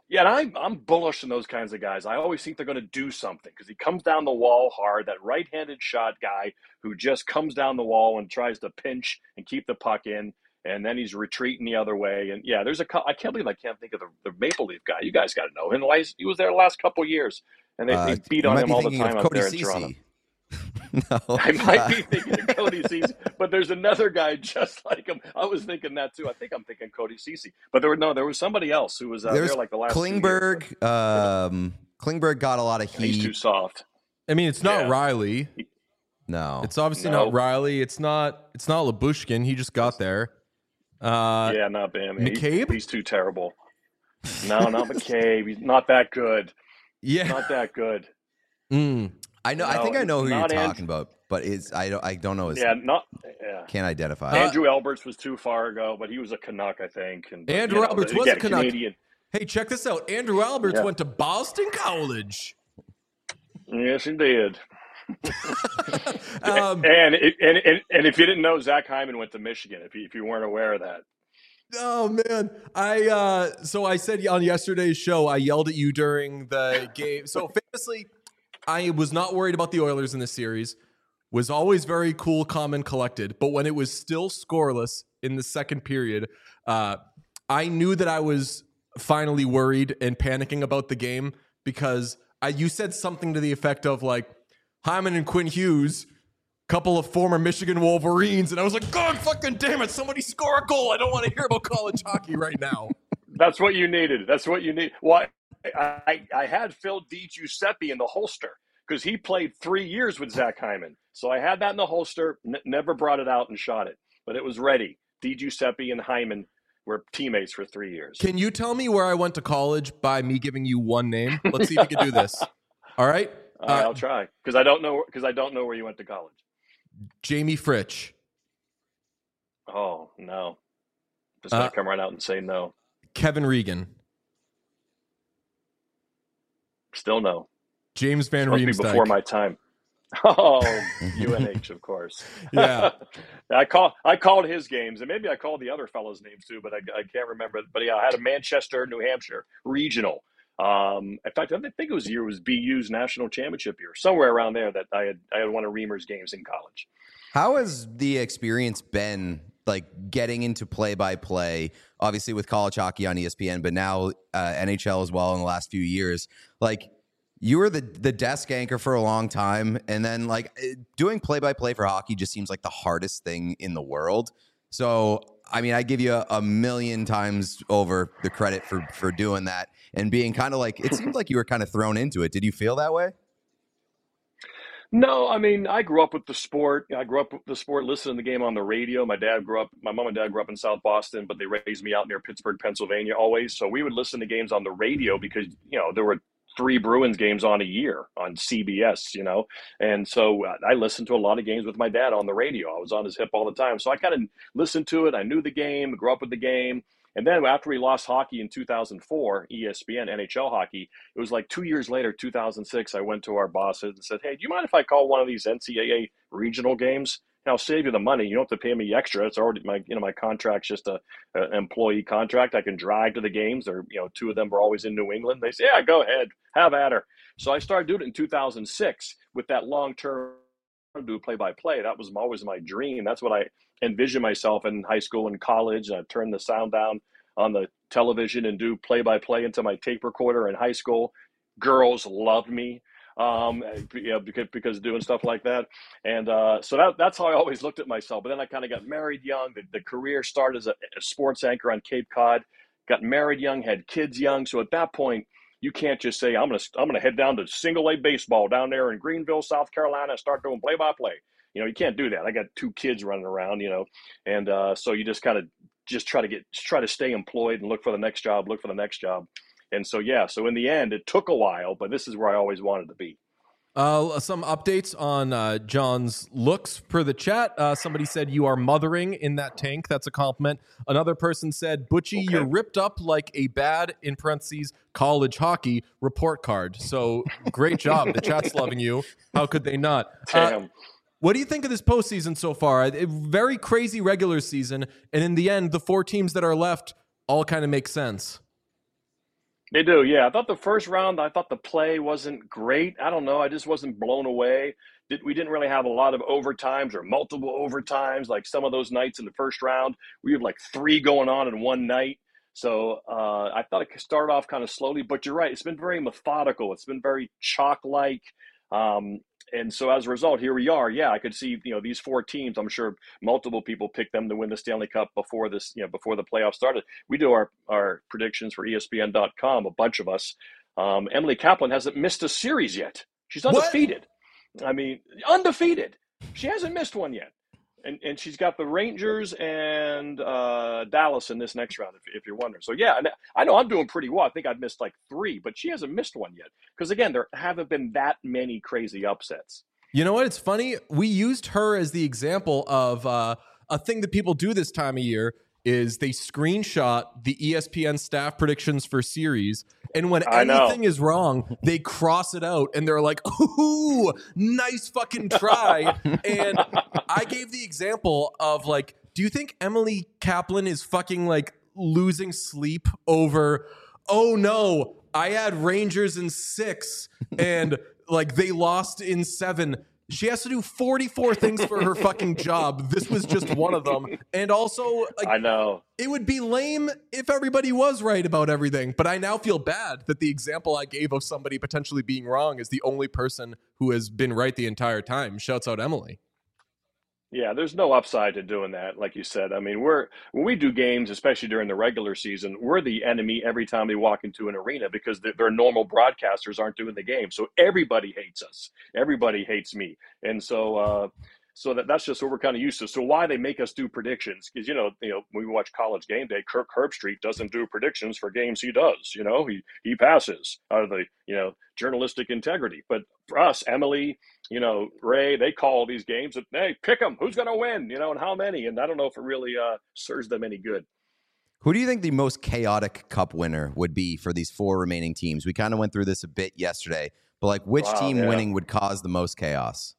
Yeah, and I'm I'm bullish on those kinds of guys. I always think they're going to do something because he comes down the wall hard. That right-handed shot guy who just comes down the wall and tries to pinch and keep the puck in, and then he's retreating the other way. And yeah, there's a I can't believe I can't think of the, the Maple Leaf guy. You guys got to know him. He was there the last couple of years, and they, Uh, they beat you on might him be all the thinking of time out Cody there in Ceci. Toronto. No, I might uh, be thinking of Cody Ceci, but there's another guy just like him. I was thinking that too. I think I'm thinking Cody Ceci, but there were no, there was somebody else who was uh, there's there like the last two years. Klingberg. Um, Klingberg got a lot of He's too heat. soft. I mean, it's not Yeah. Riley. No, It's obviously No. not Riley. It's not. It's not Labushkin. He just got there. Uh, Yeah, not Bam. He- McCabe? he's too terrible. No, not McCabe. He's not that good. yeah. Not that good. Mm. I know. I No, think I know who you're not And- talking about, but it's I don't. I don't know his. Yeah, not. Yeah. Can't identify. Uh, Andrew Alberts was too far ago, but he was a Canuck, I think. And but, Andrew you know, Alberts again, was a Canuck. Canadian. Hey, check this out. Andrew Alberts Yeah. went to Boston College. Yes, he did. um, And, it, and and and if you didn't know, Zach Hyman went to Michigan. If you, if you weren't aware of that. oh man, I uh, so I said on yesterday's show, I yelled at you during the game. So famously, I was not worried about the Oilers in this series. Was always very cool, calm, and collected. But when it was still scoreless in the second period, uh, I knew that I was finally worried and panicking about the game because I, you said something to the effect of like Hyman and Quinn Hughes, couple of former Michigan Wolverines, and I was like, God fucking damn it, somebody score a goal. I don't want to hear about college hockey right now. That's what you needed. That's what you need. Well, I, I, I had Phil DiGiuseppe in the holster because he played three years with Zach Hyman. So I had that in the holster, n- never brought it out and shot it, but it was ready. DiGiuseppe and Hyman were teammates for three years. Can you tell me where I went to college by me giving you one name? Let's see if you can do this. All right? All right, Uh, I'll try because I don't know because I don't know where you went to college. Jamie Fritsch. Oh no, just gonna Uh, come right out and say no. Kevin Regan. Still no. James Van Must be Riemsdyk. before my time. Oh, U N H, of course. Yeah. I call I called his games, and maybe I called the other fellows' names too, but I, I can't remember. But yeah, I had a Manchester, New Hampshire regional. Um, in fact, I think it was year it was B U's national championship year, somewhere around there. That I had I had one of Reamer's games in college. How has the experience been, like getting into play-by-play? Obviously, with college hockey on E S P N, but now uh, N H L as well in the last few years. Like, you were the the desk anchor for a long time, and then like doing play-by-play for hockey just seems like the hardest thing in the world. So, I mean, I give you a, a million times over the credit for for doing that and being kind of like, it seemed like you were kind of thrown into it. Did you feel that way? No, I mean, I grew up with the sport. I grew up with the sport, listening to the game on the radio. My dad grew up, my mom and dad grew up in South Boston, but they raised me out near Pittsburgh, Pennsylvania always. So we would listen to games on the radio because, you know, there were three Bruins games on a year on C B S, you know. And so I listened to a lot of games with my dad on the radio. I was on his hip all the time. So I kind of listened to it. I knew the game, grew up with the game. And then after we lost hockey in two thousand four, E S P N, N H L hockey, it was like two years later, two thousand six, I went to our bosses and said, hey, do you mind if I call one of these N C double A regional games? And I'll save you the money. You don't have to pay me extra. It's already my, you know, my contract's just a, a employee contract. I can drive to the games. Or, you know, two of them were always in New England. They say, yeah, go ahead, have at her. So I started doing it in two thousand six with that long-term do play-by-play. That was always my dream. That's what I envisioned myself in high school and college. I turned the sound down on the television and do play-by-play into my tape recorder in high school. Girls loved me, um, you know, because, because doing stuff like that. And uh, so that, that's how I always looked at myself. But then I kind of got married young. The, the career started as a, a sports anchor on Cape Cod, got married young, had kids young. So at that point, you can't just say, I'm going to I'm gonna head down to single A baseball down there in Greenville, South Carolina, and start doing play-by-play. You know, you can't do that. I got two kids running around, you know, and uh, so you just kind of just try to get try to stay employed and look for the next job, look for the next job. And so, yeah, so in the end, it took a while, but this is where I always wanted to be. Uh, some updates on uh, John's looks per the chat. Uh, somebody said you are mothering in that tank. That's a compliment. Another person said, Butchie, Okay. you're ripped up like a bad, in parentheses, college hockey report card. So great job. The chat's loving you. How could they not? Uh, Damn. what do you think of this postseason so far? A very crazy regular season. And in the end, the four teams that are left all kind of make sense. They do, yeah. I thought the first round, I thought the play wasn't great. I don't know. I just wasn't blown away. Did, we didn't really have a lot of overtimes or multiple overtimes like some of those nights in the first round. We had like three going on in one night. So uh, I thought it could start off kind of slowly, but you're right. It's been very methodical. It's been very chalk-like. Um, and so as a result, here we are. Yeah, I could see, you know, these four teams. I'm sure multiple people picked them to win the Stanley Cup before this, you know, before the playoffs started. We do our, our predictions for E S P N dot com, a bunch of us. Um, Emily Kaplan hasn't missed a series yet. She's undefeated. What? I mean, undefeated. She hasn't missed one yet. And and she's got the Rangers and uh, Dallas in this next round, if, if you're wondering. So, yeah, I know I'm doing pretty well. I think I've missed like three, but she hasn't missed one yet. Because, again, there haven't been that many crazy upsets. You know what? It's funny. We used her as the example of uh, a thing that people do this time of year is they screenshot the E S P N staff predictions for series. And when I anything know. is wrong, they cross it out and they're like, ooh, nice fucking try. And I gave the example of like, do you think Emily Kaplan is fucking like losing sleep over, oh no, I had Rangers in six and like they lost in seven. She has to do forty-four things for her fucking job. This was just one of them. And also, like, I know. It would be lame if everybody was right about everything. But I now feel bad that the example I gave of somebody potentially being wrong is the only person who has been right the entire time. Shouts out Emily. Yeah, there's no upside to doing that, like you said. I mean, we're when we do games, especially during the regular season, we're the enemy every time we walk into an arena because the, their normal broadcasters aren't doing the game. So everybody hates us. Everybody hates me, and so uh, so that that's just what we're kind of used to. So why they make us do predictions? Because you know, you know, when we watch College Game Day, Kirk Herbstreit doesn't do predictions for games he does. You know, he he passes out of the you know journalistic integrity. But for us, Emily, you know, Ray, they call these games and, hey, pick them. Who's going to win, you know, and how many? And I don't know if it really uh, serves them any good. Who do you think the most chaotic cup winner would be for these four remaining teams? We kind of went through this a bit yesterday, but like which Wow, team yeah. winning would cause the most chaos?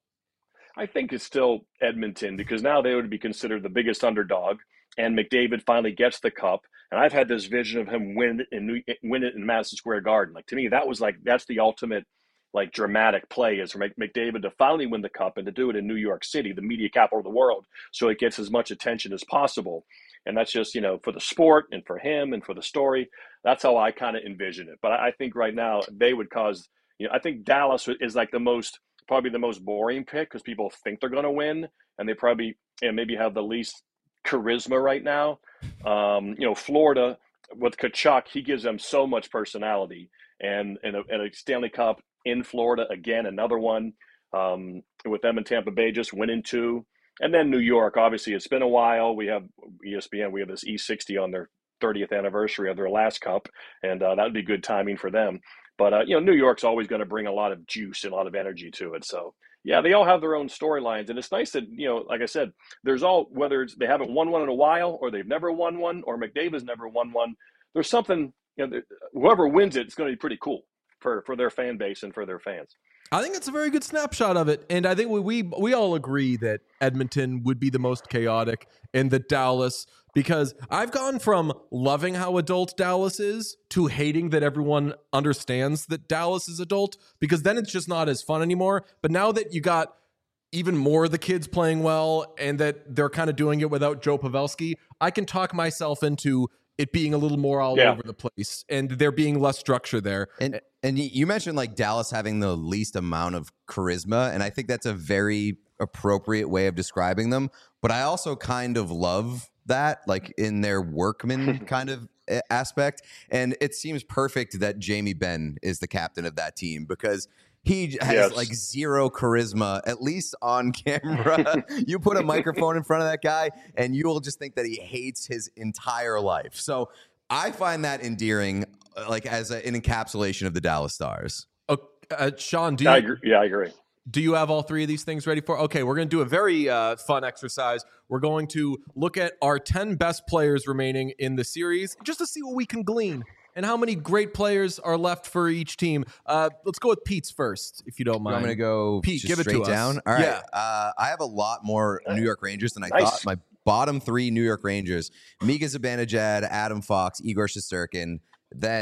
I think it's still Edmonton because now they would be considered the biggest underdog. And McDavid finally gets the cup. And I've had this vision of him win it in, win it in Madison Square Garden. Like, to me, that was like, that's the ultimate like dramatic play is for McDavid to finally win the cup and to do it in New York City, the media capital of the world, so it gets as much attention as possible. And that's just, you know, for the sport and for him and for the story. That's how I kind of envision it. But I think right now they would cause, you know, I think Dallas is like the most, probably the most boring pick because people think they're going to win and they probably, and you know, maybe have the least charisma right now. Um, you know, Florida with Tkachuk, he gives them so much personality. And, and, a, and a Stanley Cup in Florida, again, another one um, with them in Tampa Bay just winning two. And then New York, obviously, it's been a while. We have E S P N, we have this E sixty on their thirtieth anniversary of their last cup, and uh, that would be good timing for them. But, uh, you know, New York's always going to bring a lot of juice and a lot of energy to it. So, yeah, they all have their own storylines. And it's nice that, you know, like I said, there's all, whether it's they haven't won one in a while or they've never won one or McDavid's never won one, there's something, you know, whoever wins it, it's going to be pretty cool for, for their fan base and for their fans. I think it's a very good snapshot of it. And I think we, we we all agree that Edmonton would be the most chaotic and that Dallas, because I've gone from loving how adult Dallas is to hating that everyone understands that Dallas is adult, because then it's just not as fun anymore. But now that you got even more of the kids playing well and that they're kind of doing it without Joe Pavelski, I can talk myself into it being a little more all yeah. over the place and there being less structure there. And and you mentioned like Dallas having the least amount of charisma, and I think that's a very appropriate way of describing them. But I also kind of love that, like in their workman kind of aspect. And it seems perfect that Jamie Benn is the captain of that team because he has yes. like zero charisma, at least on camera. You put a microphone in front of that guy and you will just think that he hates his entire life. So I find that endearing, like as a, an encapsulation of the Dallas Stars. Uh, uh, Sean, do you, I agree. Yeah, I agree. Do you have all three of these things ready for? Okay, we're going to do a very uh, fun exercise. We're going to look at our ten best players remaining in the series just to see what we can glean and how many great players are left for each team. Uh, let's go with Pete's first, if you don't mind. I'm going to go Pete, just give it straight to down. us. All right. Yeah. Uh, I have a lot more New York Rangers than I Nice. thought. My bottom three New York Rangers, Mika Zibanejad, Adam Fox, Igor Shesterkin. Then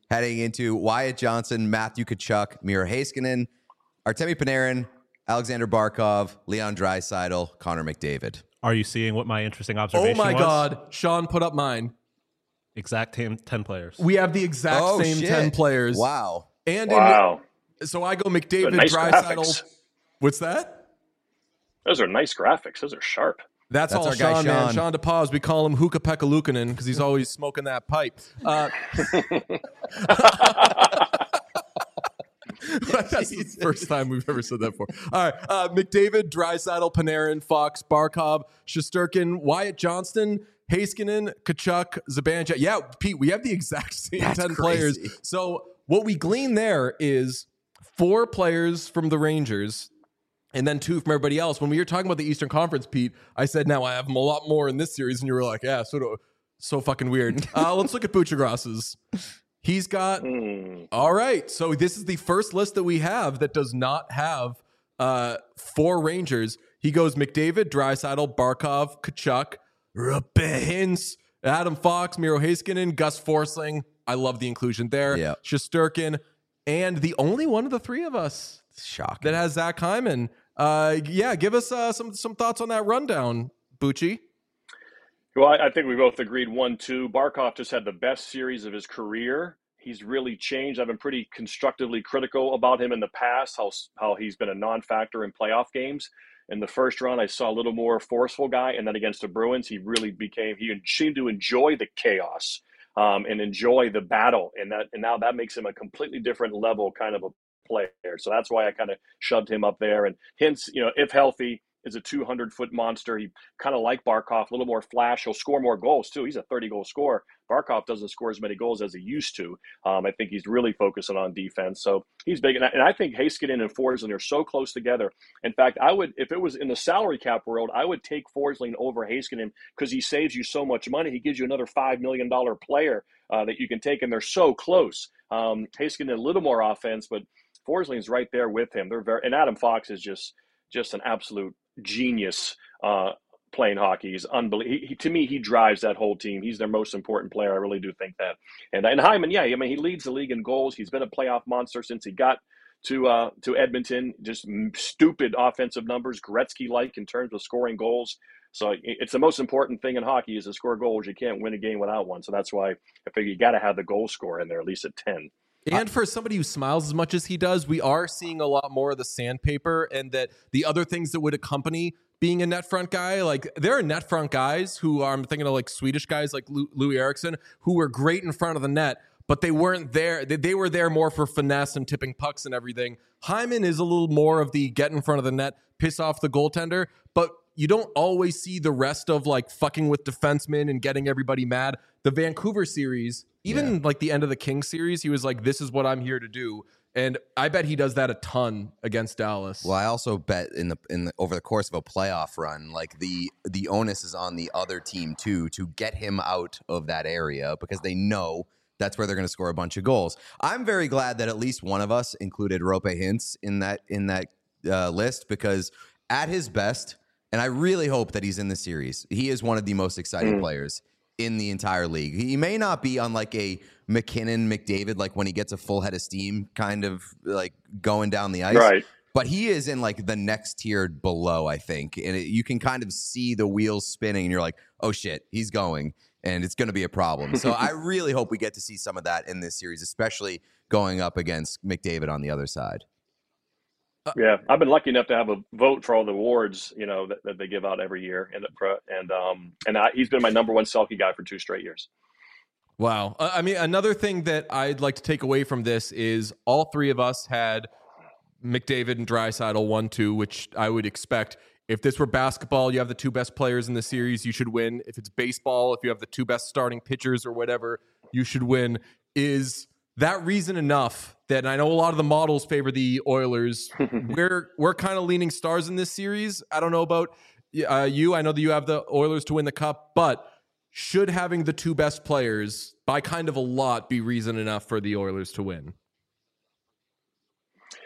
heading into Wyatt Johnson, Matthew Tkachuk, Miro Heiskanen, Artemi Panarin, Alexander Barkov, Leon Draisaitl, Connor McDavid. Are you seeing what my interesting Oh observation my was? God. Sean put up mine. Exact ten, ten players. We have the exact Oh, same shit. ten players. Wow. And Wow. in, so I go McDavid, Nice Draisaitl. graphics. What's that? Those are nice graphics. Those are sharp. That's, That's all our guy, Sean, man. Sean. Sean DePaz. We call him Hookah Pekka Luukkonen because he's always smoking that pipe. Uh, That's the first time we've ever said that before. All right. Uh, McDavid, Draisaitl, Panarin, Fox, Barkov, Shesterkin, Wyatt Johnston, Heiskanen, Tkachuk, Zibanejad. Yeah, Pete, we have the exact same That's ten crazy. players. So what we glean there is four players from the Rangers and then two from everybody else. When we were talking about the Eastern Conference, Pete, I said, now I have them a lot more in this series. And you were like, yeah, so, do, so fucking weird. Uh, let's look at Buccigross's. He's got, Mm. all right. So this is the first list that we have that does not have uh, four Rangers. He goes McDavid, Draisaitl, Barkov, Tkachuk, Roope Hintz, Adam Fox, Miro Heiskanen, Gus Forsling. I love the inclusion there. Yeah. Shesterkin, and the only one of the three of us Shocking. that has Zach Hyman. Uh, yeah, give us uh, some some thoughts on that rundown, Bucci. Well, I I think we both agreed one, two. Barkov just had the best series of his career. He's really changed. I've been pretty constructively critical about him in the past, how how he's been a non-factor in playoff games. In the first round, I saw a little more forceful guy, and then against the Bruins, he really became. He seemed to enjoy the chaos um, and enjoy the battle, and that and now that makes him a completely different level kind of a player. So that's why I kind of shoved him up there. And Hintz, you know, if healthy, is a two hundred foot monster. He kind of like Barkov, a little more flash. He'll score more goals too. He's a thirty goal scorer. Barkov doesn't score as many goals as he used to. Um, I think he's really focusing on defense. So he's big. And I, and I think Heiskanen and Forsling are so close together. In fact, I would, if it was in the salary cap world, I would take Forsling over Heiskanen because he saves you so much money. He gives you another five million dollars player uh, that you can take, and they're so close. Um, Heiskanen a little more offense, but Forsling's right there with him. They're very, and Adam Fox is just just an absolute genius uh, playing hockey. He's unbelievable. He, he, to me, he drives that whole team. He's their most important player. I really do think that. And and Hyman, yeah, I mean, he leads the league in goals. He's been a playoff monster since he got to uh, to Edmonton. Just stupid offensive numbers, Gretzky-like in terms of scoring goals. So it's the most important thing in hockey is to score goals. You can't win a game without one. So that's why I figure you got to have the goal scorer in there, at least at ten. And for somebody who smiles as much as he does, we are seeing a lot more of the sandpaper and that the other things that would accompany being a net front guy. Like there are net front guys who are, I'm thinking of like Swedish guys like Lou, Louis Eriksson, who were great in front of the net, but they weren't there. They, they were there more for finesse and tipping pucks and everything. Hyman is a little more of the get in front of the net, piss off the goaltender, but you don't always see the rest of like fucking with defensemen and getting everybody mad. The Vancouver series, even yeah. like the end of the Kings series, he was like, this is what I'm here to do. And I bet he does that a ton against Dallas. Well, I also bet in the in the, over the course of a playoff run, like the the onus is on the other team too to get him out of that area because they know that's where they're going to score a bunch of goals. I'm very glad that at least one of us included Roope Hintz in that in that uh, list because at his best, and I really hope that he's in the series, he is one of the most exciting mm. players in the entire league. He may not be on like a McKinnon, McDavid, like when he gets a full head of steam kind of like going down the ice. Right. But he is in like the next tier below, I think. And it, you can kind of see the wheels spinning and you're like, oh shit, he's going and it's going to be a problem. So I really hope we get to see some of that in this series, especially going up against McDavid on the other side. Yeah, I've been lucky enough to have a vote for all the awards, you know, that, that they give out every year, and and um and I, he's been my number one Selke guy for two straight years. Wow, uh, I mean, another thing that I'd like to take away from this is all three of us had McDavid and Draisaitl one, two, which I would expect. If this were basketball, you have the two best players in the series, you should win. If it's baseball, if you have the two best starting pitchers or whatever, you should win. Is that reason enough that I know a lot of the models favor the Oilers? we're we're kind of leaning stars in this series. I don't know about uh, you. I know that you have the Oilers to win the cup, but should having the two best players by kind of a lot be reason enough for the Oilers to win?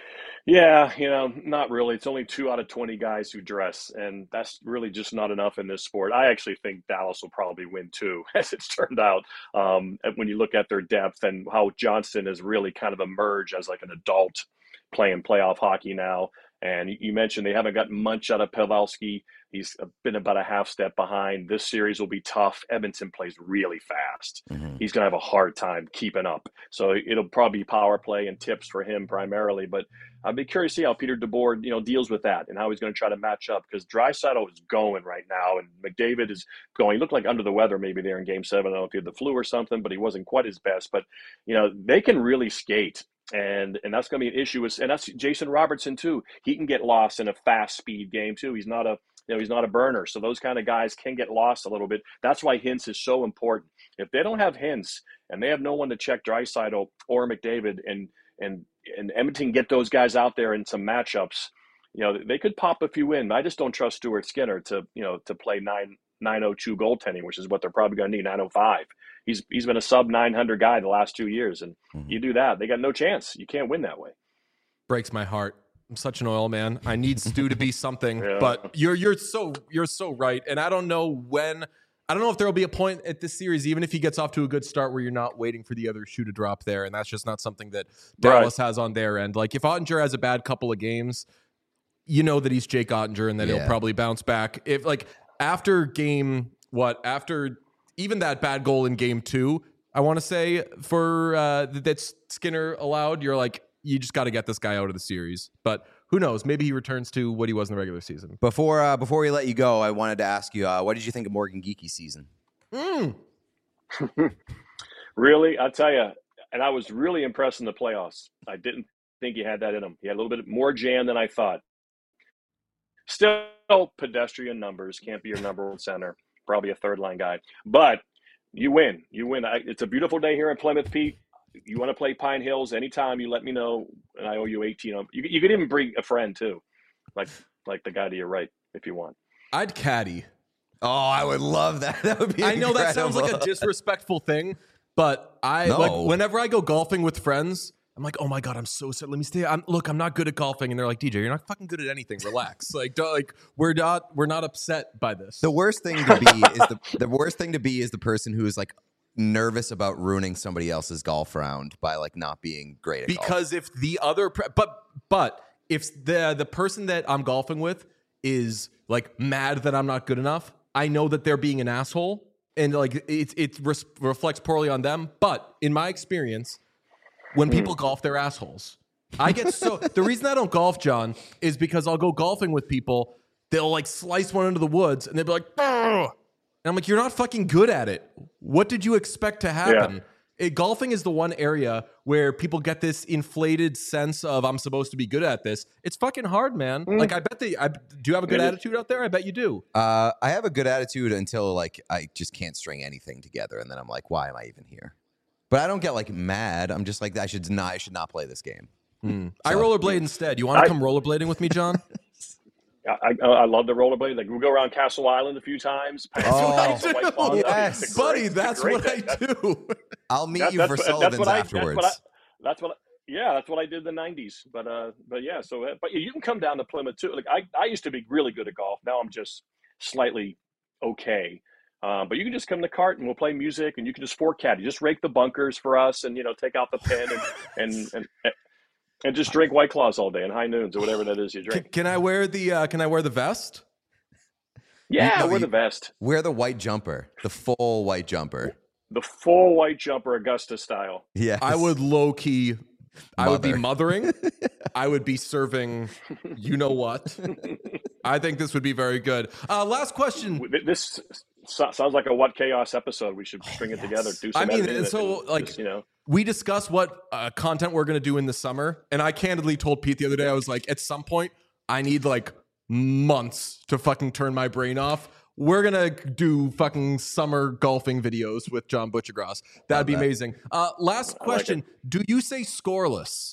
Yeah, you know, not really. It's only two out of twenty guys who dress, and that's really just not enough in this sport. I actually think Dallas will probably win too, as it's turned out. Um, and when you look at their depth and how Johnston has really kind of emerged as like an adult playing playoff hockey now. And you mentioned they haven't gotten much out of Pavelski. He's been about a half step behind. This series will be tough. Edmonton plays really fast. Mm-hmm. He's going to have a hard time keeping up. So it'll probably be power play and tips for him primarily. But I'd be curious to see how Peter DeBoer, you know, deals with that and how he's going to try to match up, because Draisaitl is going right now and McDavid is going. He looked like under the weather maybe there in game seven. I don't know if he had the flu or something, but he wasn't quite his best. But, you know, they can really skate. And and that's going to be an issue. With, and that's Jason Robertson, too. He can get lost in a fast speed game, too. He's not a you know, he's not a burner. So those kind of guys can get lost a little bit. That's why Hintz is so important. If they don't have Hintz and they have no one to check Draisaitl or McDavid and and and Edmonton get those guys out there in some matchups, you know, they could pop a few in. I just don't trust Stuart Skinner to, you know, to play nine nine oh two goaltending, which is what they're probably going to need, nine oh five. He's he's been a sub nine hundred guy the last two years, and mm-hmm. you do that, they got no chance. You can't win that way. Breaks my heart. I'm such an oil man. I need Stu to be something, yeah. but you're you're so you're so right. And I don't know when. I don't know if there will be a point at this series, even if he gets off to a good start, where you're not waiting for the other shoe to drop there, and that's just not something that Dallas right. has on their end. Like if Ottinger has a bad couple of games, you know that he's Jake Ottinger, and that yeah. he'll probably bounce back. If like after game what after even that bad goal in game two, I want to say for uh, that Skinner allowed, you're like, you just got to get this guy out of the series. But who knows? Maybe he returns to what he was in the regular season. Before uh, before we let you go, I wanted to ask you, uh, what did you think of Morgan Geeky's season? Mm. Really? I'll tell you, and I was really impressed in the playoffs. I didn't think he had that in him. He had a little bit more jam than I thought. Still pedestrian numbers. Can't be your number one center. Probably a third-line guy. But you win. You win. I, it's a beautiful day here in Plymouth, Pete. You want to play Pine Hills anytime, you let me know, and I owe you eighteen. You, you could even bring a friend, too, like like the guy to your right, if you want. I'd caddy. Oh, I would love that. That would be I know incredible. That sounds like a disrespectful thing, but I no. like whenever I go golfing with friends, I'm like, oh my God, I'm so sad. Let me stay. I'm, look, I'm not good at golfing. And they're like, D J, you're not fucking good at anything. Relax. like, don't, like we're not we're not upset by this. The worst thing to be is the the worst thing to be is the person who is like nervous about ruining somebody else's golf round by like not being great at because golf. if the other pre- but but if the the person that I'm golfing with is like mad that I'm not good enough, I know that they're being an asshole, and like it it res- reflects poorly on them. But in my experience, when people golf, they're assholes. I get so the reason I don't golf, John, is because I'll go golfing with people. They'll like slice one into the woods, and they'll be like, "Ugh." And I'm like, you're not fucking good at it. What did you expect to happen? Yeah. It, golfing is the one area where people get this inflated sense of I'm supposed to be good at this. It's fucking hard, man. Mm. Like I bet they. I, do you have a good it attitude is. out there? I bet you do. Uh, I have a good attitude until like I just can't string anything together, and then I'm like, why am I even here? But I don't get like mad. I'm just like, I should not. I should not play this game. Mm. So, I rollerblade instead. You want to come rollerblading with me, John? I, I, I love the rollerblade. Like we go around Castle Island a few times. Oh, yes. buddy, that's what I do. I'll meet that, you for Sullivan's I, afterwards. That's what, I, that's what I, yeah, that's what I did in the nineties. But uh, but yeah, so but you can come down to Plymouth too. Like I, I used to be really good at golf. Now I'm just slightly okay. Um, but you can just come to the cart and we'll play music, and you can just four caddy, just rake the bunkers for us, and you know take out the pin and and. and, and And just drink White Claws all day and high noons or whatever that is you drink. Can, can I wear the uh, Can I wear the vest? Yeah, no, wear the vest. Wear the white jumper, the full white jumper, the full white jumper, Augusta style. Yeah, I would low key. I would be mothering. I would be serving. You know what? I think this would be very good. Uh, last question. This sounds like a What Chaos episode. We should string it yes. together. Do some I mean, and so and like just, you know. We discussed what uh, content we're going to do in the summer. And I candidly told Pete the other day, I was like, at some point, I need like months to fucking turn my brain off. We're going to do fucking summer golfing videos with John Butchergross. That'd be that. amazing. Uh, last question. Like do you say scoreless?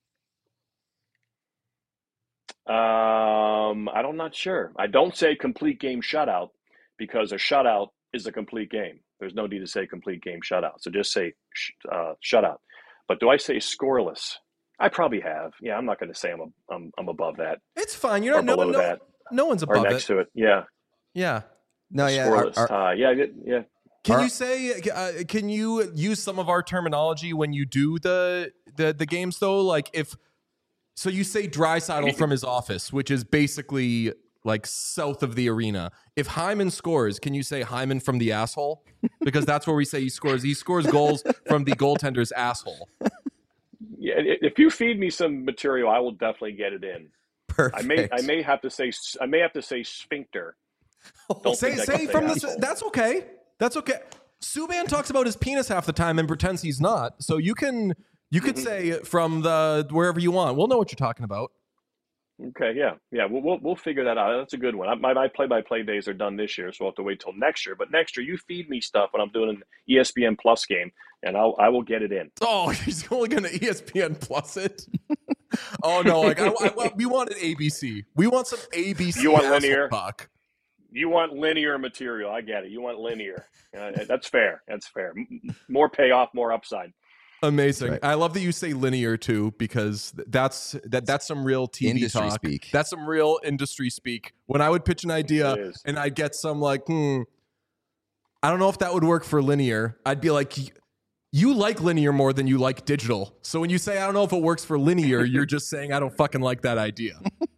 Um, I'm not sure. I don't say complete game shutout because a shutout is a complete game. There's no need to say complete game shutout. So just say sh- uh, shutout. But do I say scoreless? I probably have. Yeah, I'm not going to say I'm, a, I'm I'm above that. It's fine. You're or not no, below no, that. no one's Or above next it. to it. Yeah. Yeah. No, yeah. Scoreless our- our- tie. Yeah, yeah, yeah. Can Our- you say? Uh, can you use some of our terminology when you do the the the games though? Like if so, you say Draisaitl from his office, which is basically like south of the arena. If Hyman scores, can you say Hyman from the asshole? Because that's where we say he scores. He scores goals from the goaltender's asshole. Yeah, if you feed me some material, I will definitely get it in. Perfect. I may I may have to say I may have to say sphincter. Don't say think I say can from the. asshole. That's okay. That's okay. Subban talks about his penis half the time and pretends he's not. So you can you could say from the wherever you want. We'll know what you're talking about. Okay, yeah, yeah, we'll we'll, we'll figure that out. That's a good one. I, my my play by play days are done this year, so we'll have to wait till next year. But next year, you feed me stuff when I'm doing an E S P N Plus game, and I'll I will get it in. Oh, he's only going to E S P N Plus it. Oh no, like I, I, we wanted A B C. We want some A B C. You want asshole linear? talk. You want linear material. I get it. You want linear. Uh, that's fair. That's fair. M- more payoff, more upside. Amazing. Right. I love that you say linear too, because that's that that's some real T V Industry talk. speak. That's some real industry speak. When I would pitch an idea It is. and I'd get some like, hmm, I don't know if that would work for linear. I'd be like, you like linear more than you like digital. So when you say I don't know if it works for linear, you're just saying I don't fucking like that idea.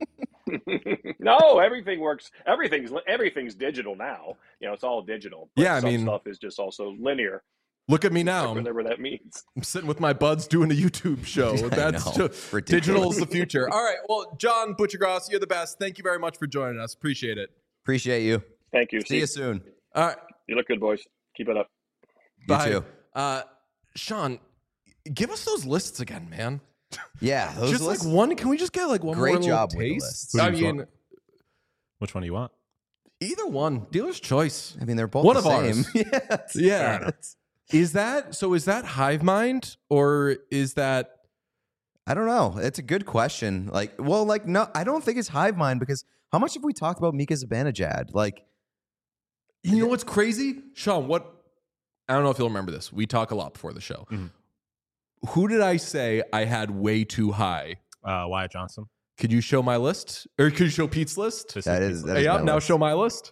No, everything works. Everything's everything's digital now. You know, it's all digital. But Yeah, I some mean- stuff is just also linear. Look at me now. Whatever that means. I'm sitting with my buds doing a YouTube show. That's know. just, Ridiculous. digital is the future. All right. Well, John Butchergross, you're the best. Thank you very much for joining us. Appreciate it. Appreciate you. Thank you. See you soon. All right. You look good, boys. Keep it up. You Bye. too. Uh, Sean, give us those lists again, man. Yeah, those just lists- like one. Can we just get like one Great more little job with the taste? lists. Who do I you mean, want? Which one do you want? either one. Dealer's choice. I mean, they're both One the of same. ours. yeah. it's- Yeah. Is that so? Is that Hive Mind or is that? I don't know. It's a good question. Like, well, like, no, I don't think it's hive mind because how much have we talked about Mika Zibanejad? Like, You know what's crazy, Sean? What? I don't know if you'll remember this. We talk a lot before the show. Mhm. Who did I say I had way too high? Uh, Wyatt Johnson. Could you show my list, or could you show Pete's list? This that is is, that is yeah. my Now list. show my list.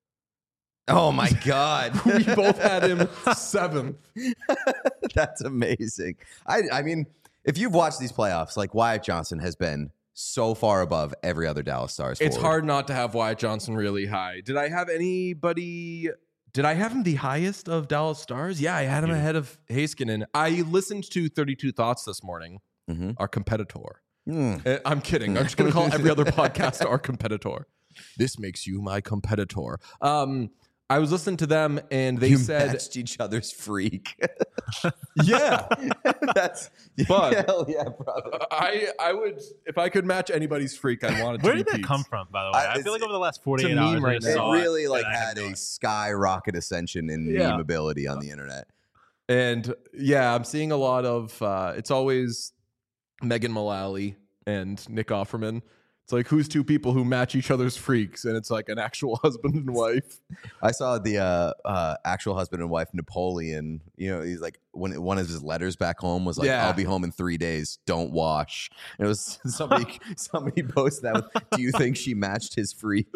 Oh my god, We both had him seventh. that's amazing. I, I mean, if you've watched these playoffs, like Wyatt Johnson has been so far above every other Dallas Stars. It's forward. hard not to have Wyatt Johnson really high. Did I have anybody? Did I have him the highest of Dallas Stars? Yeah, I had him You did. ahead of Heiskanen. I listened to thirty-two Thoughts this morning, Mhm. our competitor. Mm. Uh, I'm kidding. I'm just going to call every other podcast our competitor. This makes you my competitor. Um, I was listening to them and they you said, matched each other's freak. yeah, That's But- hell yeah, brother. I I would, if I could match anybody's freak, I'd want it to Where be did that Pete's. come from, by the way? I- I, feel it's- like over the last it's forty-eight a hours, meme I right just now. It saw really and like I had no a idea. skyrocket ascension in Yeah. memeability on the internet. And yeah, I'm seeing a lot of, uh, it's always Megan Mullally and Nick Offerman. It's like, who's two people who match each other's freaks? And it's like an actual husband and wife. I saw the uh, uh, actual husband and wife Napoleon. You know, he's like when one of his letters back home was like, Yeah. "I'll be home in three days. Don't wash." And it was somebody. somebody posted that. With, do you think she matched his freak?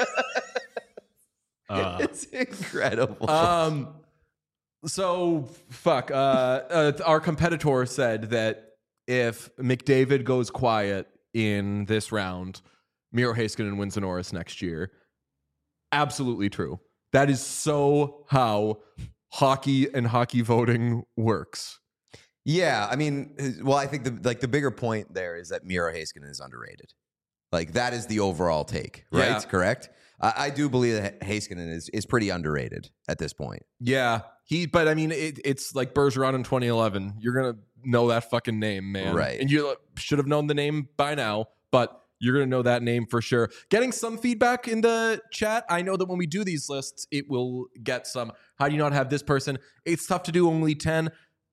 Uh, It's incredible. Um, so fuck. Uh, uh, our competitor said that if McDavid goes quiet in this round, Miro Heiskanen wins the Norris next year. Absolutely true. That is so how hockey and hockey voting works. Yeah, I mean, well, I think the like the bigger point there is that Miro Heiskanen is underrated. Like that is the overall take, right? Yeah. Correct. I, I do believe that Heiskanen is is pretty underrated at this point. Yeah, he. But I mean, it, it's like Bergeron in twenty eleven. You're gonna know that fucking name, man. Right. And you should have known the name by now, but you're gonna know that name for sure. Getting some feedback in the chat. I know that when we do these lists, it will get some. How do you not have this person? It's tough to do only ten.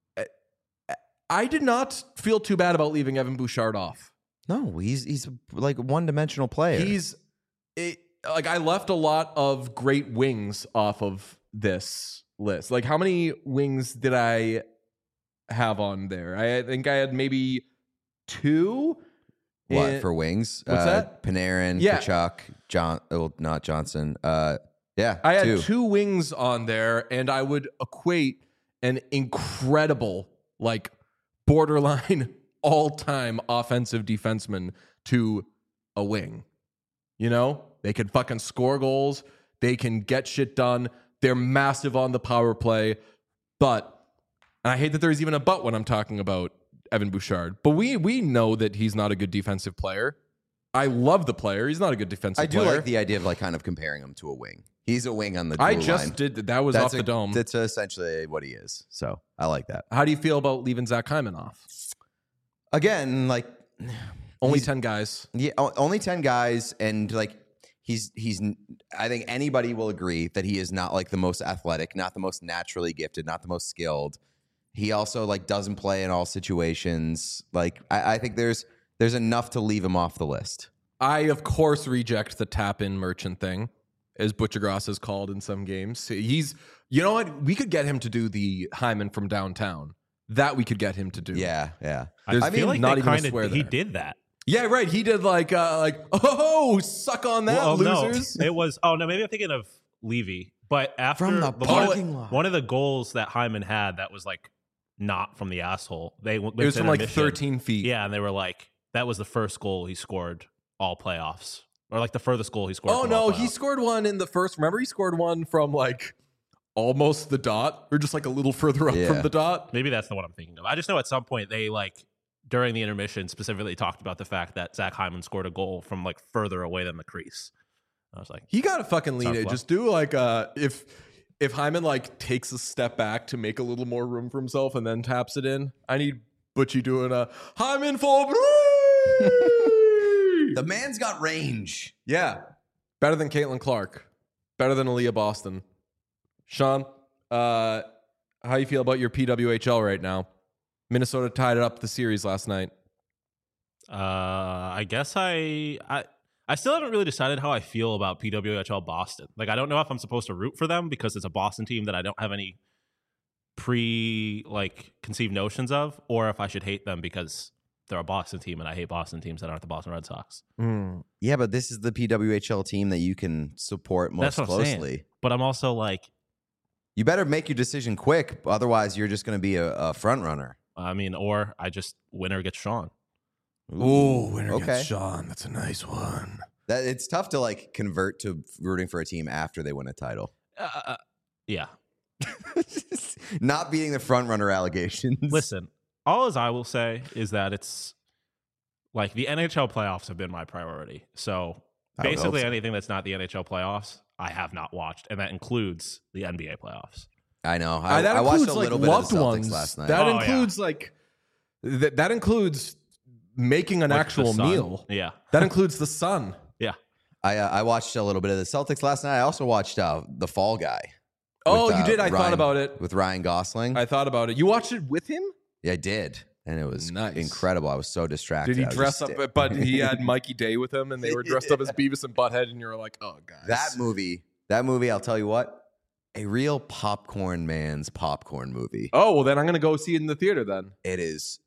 I did not feel too bad about leaving Evan Bouchard off. No, he's he's like a one dimensional player. He's it, like I left a lot of great wings off of this list. Like how many wings did I have on there? I think I had maybe two. What in- for wings? What's uh, that? Panarin, Yeah. Kachuk, John. Oh, not Johnson. Uh, yeah, I had two. two wings on there, and I would equate an incredible, like borderline all-time offensive defenseman to a wing. You know, they can fucking score goals. They can get shit done. They're massive on the power play. But, and I hate that there's even a but when I'm talking about Evan Bouchard, but we we know that he's not a good defensive player. I love the player. He's not a good defensive I do player. like the idea of like kind of comparing him to a wing. He's a wing on the. I blue just line. did that. That was That's off a- the dome. That's essentially what he is. So I like that. How do you feel about leaving Zach Hyman off? Again, like Only he's- ten guys. Yeah, o- only ten guys, and like he's he's. I think anybody will agree that he is not like the most athletic, not the most naturally gifted, not the most skilled. He also like doesn't play in all situations. Like I, I think there's there's enough to leave him off the list. I, of course, reject the tap-in merchant thing, as Butchergross is called in some games. He's, you know what? We could get him to do the Hyman from downtown. That we could get him to do. Yeah, yeah. There's I feel like not they even a kind swear of he there. did that. Yeah, right. He did like, uh, like, oh, suck on that, Well, losers. no, it was. Oh no, maybe I'm thinking of Levy. But after From the one, parking of, lot. one of the goals that Hyman had that was like not from the asshole. They It was from like thirteen feet. Yeah, and they were like, that was the first goal he scored all playoffs, or like the furthest goal he scored. Oh from all no, he playoffs. scored one in the first. Remember, he scored one from like almost the dot, or just like a little further up Yeah. from the dot. Maybe that's the one I'm thinking of. I just know at some point they like during the intermission specifically talked about the fact that Zach Hyman scored a goal from like further away than the crease. I was like, He got to fucking lean Sounds it. fun. Just do like uh if if Hyman like takes a step back to make a little more room for himself and then taps it in. I need Butchie doing a Hyman for three. The man's got range. Yeah, better than Caitlin Clark, better than Aaliyah Boston. Sean, uh, how you feel about your P W H L right now? Minnesota tied up the series last night. uh, I guess I I. I still haven't really decided how I feel about P W H L Boston. Like, I don't know if I'm supposed to root for them because it's a Boston team that I don't have any pre like conceived notions of, or if I should hate them because they're a Boston team and I hate Boston teams that aren't the Boston Red Sox. Yeah, but this is the P W H L team that you can support most That's what I'm saying. closely. But I'm also like, You better make your decision quick, otherwise you're just going to be a, a front runner. I mean, or I just winner gets Sean. Ooh, winner okay. gets Sean. That's a nice one. That it's tough to like convert to rooting for a team after they win a title. Uh, yeah. Not beating the front runner allegations. Listen, all as I will say is that it's like the N H L playoffs have been my priority. So I would hope basically so. anything that's not the N H L playoffs, I have not watched, and that includes the N B A playoffs. I know. Uh, I, that I watched includes a like little bit of loved the Celtics ones. last night. That Oh, yeah. includes like that. That includes making an Like the actual Sun. meal. Yeah. That includes the sun. Yeah. I uh, I watched a little bit of the Celtics last night. I also watched uh, The Fall Guy. Oh, with, you uh, did. I Ryan- thought about it. with Ryan Gosling. I thought about it. You watched it with him? yeah, I did, and it was Nice. incredible. I was so distracted. Did he I was dress just up? sta- But he had Mikey Day with him, and they were dressed up as Beavis and Butthead, and you were like, "Oh, guys, that movie? That movie, I'll tell you what, a real popcorn man's popcorn movie. Oh, well, then I'm gonna go see it in the theater. Then It is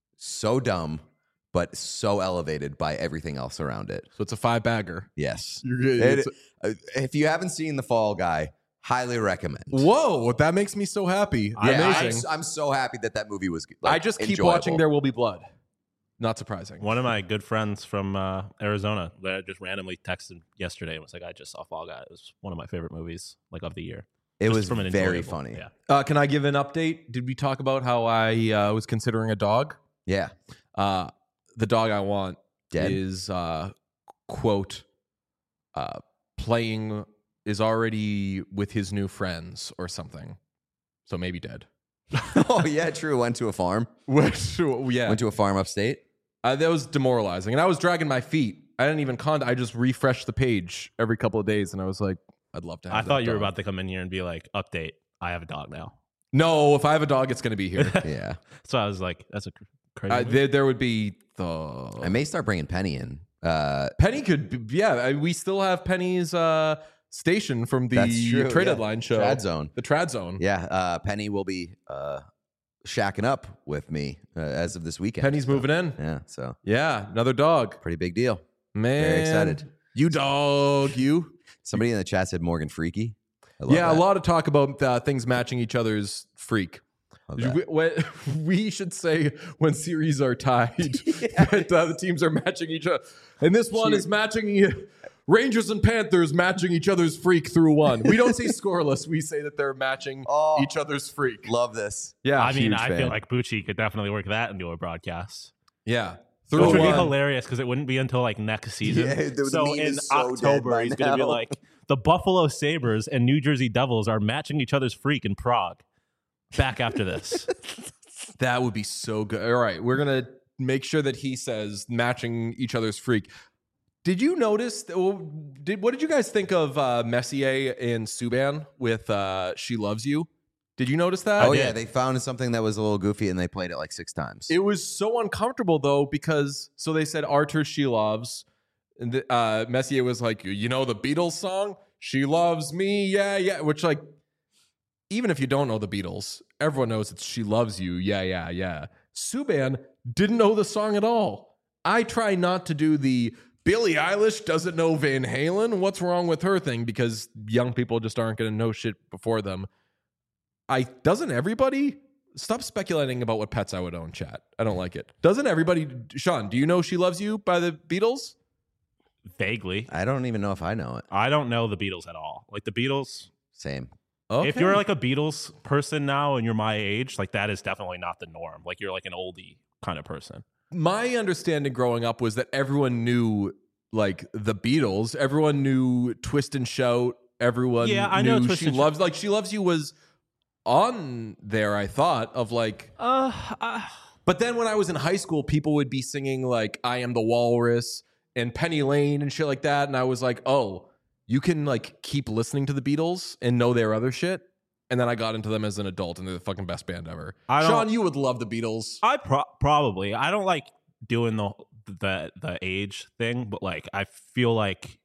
so dumb, but so elevated by everything else around it. so it's a five bagger. Yes. You're good. It- It's- uh, if you haven't seen The Fall Guy, highly recommend. Whoa, that makes me so happy. Yeah, Amazing. I'm, I'm so happy that that movie was. Like, I just keep enjoyable. watching There Will Be Blood. Not surprising. One of my good friends from uh, Arizona that I just randomly texted yesterday and was like, I just saw Fall Guy. It was one of my favorite movies like of the year. It Just was from an very enjoyable- funny. Yeah. Uh, can I give an update? Did we talk about how I uh, was considering a dog? Yeah. Uh, the dog I want Dead? is uh, quote uh, playing is already with his new friends or something. So maybe dead. Oh yeah, true. Went to a farm. Which yeah, Went to a farm upstate. uh, that was demoralizing, and I was dragging my feet. I didn't even con. I just refreshed the page every couple of days, and I was like, I'd love to. have I that thought you were dog. about to come in here and be like, update, I have a dog now. No, if I have a dog, it's going to be here. Yeah. So I was like, that's a cr- crazy. uh, move. there, there would be the I may start bringing Penny in. Uh, Penny could. Be, yeah, I- we still have Penny's uh, station from the That's true, trade yeah. deadline show, Trad Zone. the Trad Zone. Yeah. Uh, Penny will be uh, shacking up with me uh, as of this weekend. Penny's so, moving in. Yeah, so Yeah, another dog. pretty big deal. Man. Very excited. You dog, you. Somebody in the chat said Morgan Freaky. I love Yeah, that. a lot of talk about uh, things matching each other's freak. Love that. We, when- we should say when series are tied that uh, the teams are matching each other. And this one is matching Rangers and Panthers matching each other's freak through one. We don't say scoreless. We say that they're matching Oh. each other's freak. Love this. Yeah, I mean, huge I fan. feel like Bucci could definitely work that into a broadcast. yeah. Which Through would be one. hilarious because it wouldn't be until like next season. Yeah, the- the so meme in is so dead October, by he's going to be now. like, the Buffalo Sabres and New Jersey Devils are matching each other's freak in Prague. Back after this. That would be so good. All right, we're gonna make sure that he says matching each other's freak. Did you notice? Did what did you guys think of uh, Messier and Subban with uh, "She Loves You"? Did you notice that? Oh, yeah. They found something that was a little goofy and they played it like six times. It was so uncomfortable though because so they said Arthur "She Loves," and the, uh, Messier was like, you know the Beatles song "She Loves Me," yeah, yeah, which like. Even if you don't know the Beatles, everyone knows it's "She Loves You." Yeah, yeah, yeah. Subban didn't know the song at all. I try not to do the Billie Eilish doesn't know Van Halen. What's wrong with her thing? Because young people just aren't going to know shit before them. I doesn't everybody stop speculating about what pets I would own, chat. I don't like it. Doesn't everybody? Sean, do you know "She Loves You" by the Beatles? Vaguely. I don't even know if I know it. I don't know the Beatles at all. Like the Beatles, Same. Okay. if you're like a Beatles person now and you're my age, like that is definitely not the norm. Like you're like an oldie kind of person. My understanding growing up was that everyone knew like the Beatles. Everyone knew "Twist and Shout." Everyone Yeah, I knew know Twist "She and Shout." Loves." Like "She Loves You" was on there. I thought of like, Uh, uh but then when I was in high school, people would be singing like "I Am the Walrus" and Penny Lane and shit like that, and I was like, oh, you can like keep listening to the Beatles and know their other shit. And then I got into them as an adult, and they're the fucking best band ever. I don't- Sean, you would love the Beatles. I pro- probably I don't like doing the the the age thing, but like I feel like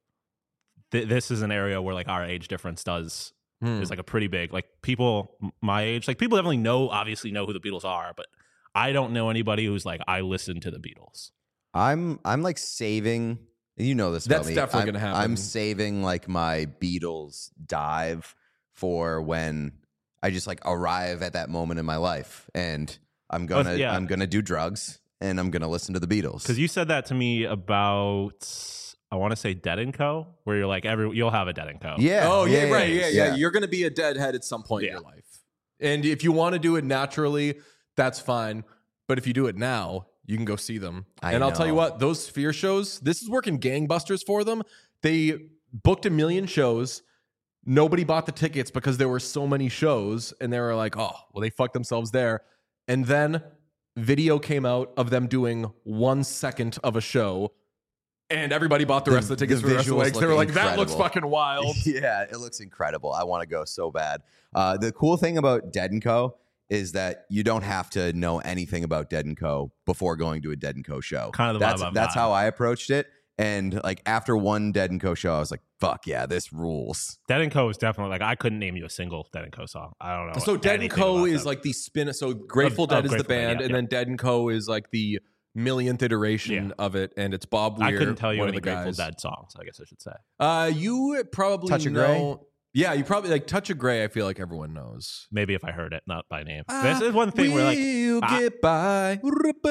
th- this is an area where like our age difference does Hmm. is like a pretty big like people m- my age, like people definitely know obviously know who the Beatles are, but I don't know anybody who's like I listen to the Beatles. I'm I'm like saving. You know this. About That's me. definitely I'm- gonna happen. I'm saving like my Beatles dive for when I just like arrive at that moment in my life, and I'm gonna yeah. I'm gonna do drugs and I'm gonna listen to the Beatles. Because you said that to me about I want to say Dead and Co, where you're like every you'll have a Dead and Co. yeah. Oh yeah, right, yeah, yeah, yeah. You're gonna be a deadhead at some point in Yeah. your life, and if you want to do it naturally, that's fine. But if you do it now, you can go see them. I and I'll tell you know. what, those Sphere shows, this is working gangbusters for them. They booked a million shows. Nobody bought the tickets because there were so many shows, and they were like, "Oh, well, they fucked themselves there." And then video came out of them doing one second of a show. And everybody bought the, The- rest of the tickets the for the rest of the visuals week. They were look like, "That looks incredible." fucking wild." Yeah, it looks incredible. I want to go so bad. Uh, the cool thing about Dead and Co is that you don't have to know anything about Dead and Co before going to a Dead and Co show. Kind of the that's vibe I'm that's on. how I approached it. And like after one Dead and Co show, I was like, "Fuck yeah, this rules." Dead and Co is definitely like I couldn't name you a single Dead and Co song. I don't know. So Dead and anything Co about is them. like the spin. So Grateful Of- Dead of is the Grateful Dead, band, yeah, and yeah. then Dead and Co is like the millionth iteration Yeah. of it, and it's Bob Weir. I couldn't tell you one any of the Grateful guys. Dead songs. I guess I should say. Uh, you probably Touch of know. Yeah, you probably like Touch of Grey. I feel like everyone knows. Maybe if I heard it, not by name. this is one thing where like We'll I- get by.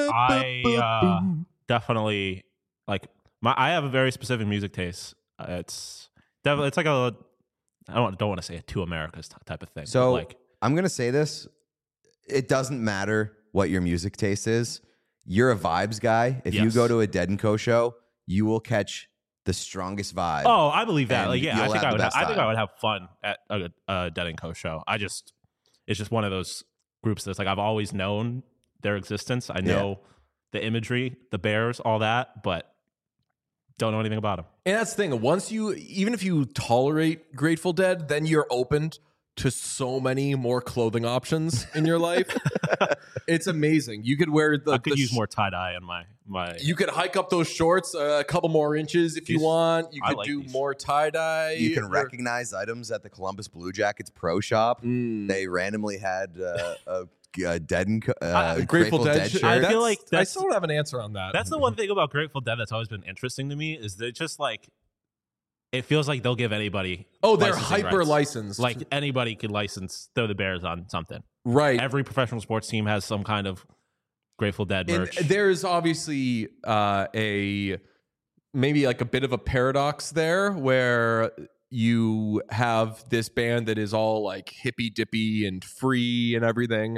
I uh, definitely like my. I have a very specific music taste. Uh, it's definitely it's like a. I don't don't want to say a two Americas t- type of thing. but, So like I'm gonna say this: it doesn't matter what your music taste is. You're a vibes guy. If you Yes. go to a Dead and Co show, you will catch the strongest vibe. oh, I believe that. and Like yeah, I you'll think have I the would. Have, best I think time. I would have fun at a, a Dead and Co show. I just it's just one of those groups that's like I've always known their existence. I know the imagery, the bears, all that, but don't know anything about them. And that's the thing. Once you, even if you tolerate Grateful Dead, then you're opened to so many more clothing options in your life. It's amazing. You could wear the. I could the use sh- more tie dye in my my. You could hike up those shorts uh, a couple more inches if you These- want. You I could like do these. more tie dye. You can recognize items at the Columbus Blue Jackets Pro Shop. Mm. They randomly had uh, a uh, Dead and Co- uh, Uh, Grateful, Grateful Dead. Dead shirt. shirt. I feel That's- like I that's- still don't have an answer on that. That's the one thing about Grateful Dead that's always been interesting to me is that just like it feels like they'll give anybody. Oh, they're licensing hyper rights. licensed. Like anybody could license throw the Bears on something. right. Every professional sports team has some kind of Grateful Dead And merch. there's obviously uh, a maybe like a bit of a paradox there where you have this band that is all like hippy dippy and free and everything,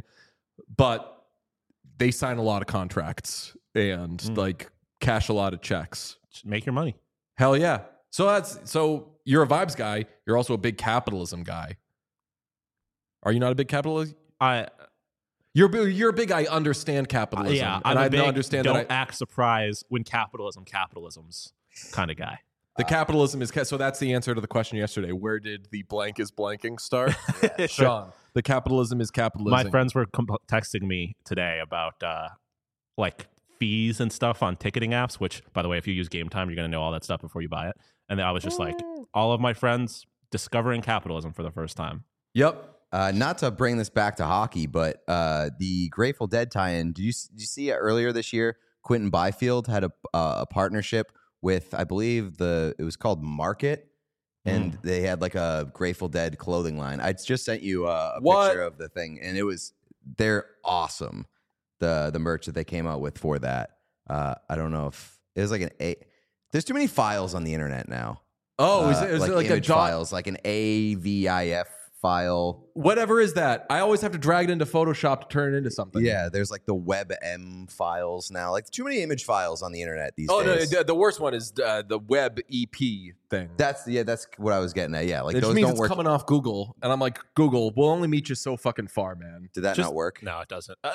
but they sign a lot of contracts and Mm. like cash a lot of checks. Just make your money. Hell yeah. So that's so you're a vibes guy. You're also a big capitalism guy. Are you not a big capitalist? I You're bi- you're a big. I understand capitalism. yeah, and I'm I a big understand don't that I, act surprised when capitalism capitalism's kind of guy. the capitalism is ca- so. That's the answer to the question yesterday. Where did the blank is blanking start? Sean, the capitalism is capitalism. My friends were comp- texting me today about uh, like fees and stuff on ticketing apps. Which, by the way, if you use Game Time, you're gonna know all that stuff before you buy it. And then I was just like, all of my friends discovering capitalism for the first time. Yep. Uh, not to bring this back to hockey, but uh, the Grateful Dead tie-in. Did you did you see earlier this year? Quentin Byfield had a uh, a partnership with, I believe the it was called Market, and Mm. they had like a Grateful Dead clothing line. I just sent you a, a What? picture of the thing, and it was they're awesome. The the merch that they came out with for that. Uh, I don't know if it was like an A. There's too many files on the internet now. Oh, is Uh, it, is like it like a image dot? files, like an A V I F file. Whatever is that? I always have to drag it into Photoshop to turn it into something. Yeah, there's like the WebM files now. Like too many image files on the internet these Oh no, days. the, the worst one is uh, the web E P thing. That's yeah, that's what I was getting at. Yeah, like It just those means don't it's work. coming off Google, and I'm like, Google, we'll only meet you so fucking far, man. Did that Just- not work? No, it doesn't. Uh,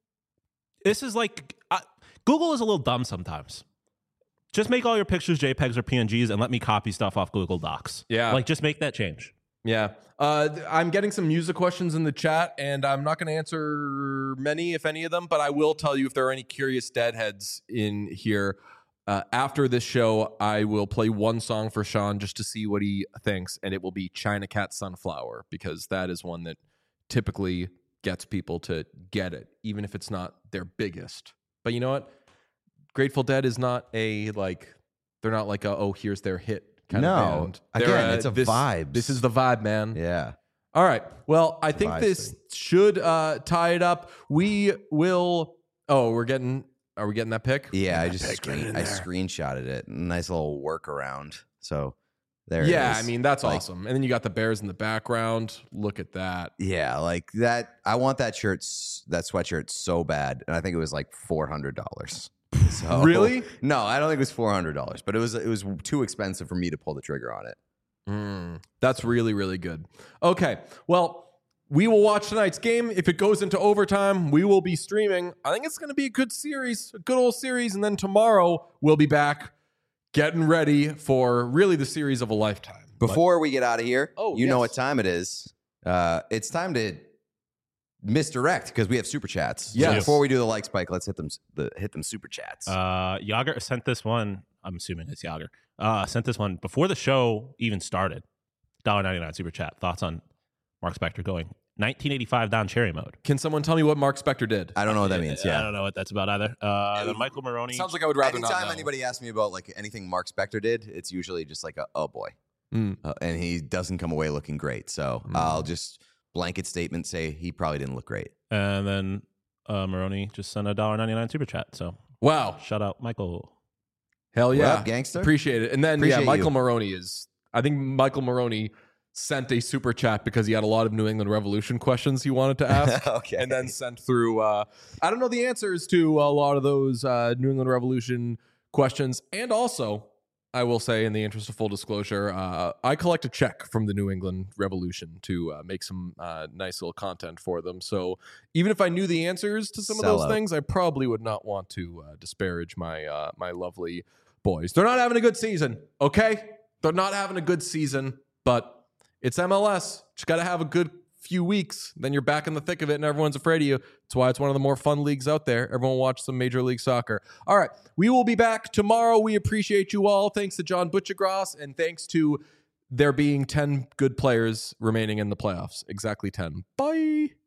this is like uh, Google is a little dumb sometimes. Just make all your pictures JPEGs or P N Gs and let me copy stuff off Google Docs. Yeah. Like just make that change. Yeah. Uh, th- I'm getting some music questions in the chat, and I'm not going to answer many, if any of them, but I will tell you if there are any curious deadheads in here. Uh, after this show, I will play one song for Sean just to see what he thinks, and it will be China Cat Sunflower, because that is one that typically gets people to get it, even if it's not their biggest. But you know what? Grateful Dead is not a, like, they're not like a, oh, here's their hit kind No. of band. Again, They're it's a this, vibes. This is the vibe, man. Yeah. All right. Well, I think vibes this thing. should uh, tie it up. We will. Oh, we're getting. Are we getting that pick? Yeah, I Get that just pick, get it screen, in I there. screenshotted it. Nice little workaround. So there it Yeah, is. I mean that's Like, awesome. And then you got the Bears in the background. Look at that. Yeah, like that. I want that shirt, s- that sweatshirt so bad, and I think it was like four hundred dollars. So, Really? No, I don't think it was four hundred dollars, but it was it was too expensive for me to pull the trigger on it. Mm, that's really really good. Okay. Well, we will watch tonight's game. If it goes into overtime, we will be streaming. I think it's going to be a good series, a good old series. And then tomorrow we'll be back, getting ready for really the series of a lifetime. But- Before we get out of here, Oh, you know yes. what time it is. Uh, it's time to misdirect because we have super chats. So Yes. before we do the like spike, let's hit them the hit them super chats. Uh, Yager sent this one. I'm assuming it's Yager. Uh, sent this one before the show even started. one dollar ninety-nine super chat. Thoughts on Mark Spector going nineteen eighty-five Don Cherry mode? Can someone tell me what Mark Spector did? I don't know what that means. I Yeah. don't know what that's about either. Uh, then Michael Maroney. Sounds like I would rather not Anytime know. anybody asks me about like anything Mark Spector did, it's usually just like a oh boy, Mm. uh, and he doesn't come away looking great. So Mm. I'll just blanket statement say he probably didn't look great. and then uh, Maroney just sent a one dollar ninety-nine super chat. So Wow. shout out Michael. Hell What yeah. up, gangster? Appreciate it. And then, Appreciate yeah, Michael you. Maroney is, I think Michael Maroney sent a super chat because he had a lot of New England Revolution questions he wanted to ask. Okay. And then sent through, uh, I don't know the answers to a lot of those uh, New England Revolution questions. And also, I will say, in the interest of full disclosure, uh, I collect a check from the New England Revolution to uh, make some uh, nice little content for them. So even if I knew the answers to some of those Sellout. things, I probably would not want to uh, disparage my uh, my lovely boys. They're not having a good season, okay? They're not having a good season, but it's M L S. Just got to have a good few weeks. Then you're back in the thick of it and everyone's afraid of you. That's why it's one of the more fun leagues out there. Everyone watch some Major League Soccer. All right. We will be back tomorrow. We appreciate you all. Thanks to John Butchergross and thanks to there being ten good players remaining in the playoffs. Exactly ten. Bye.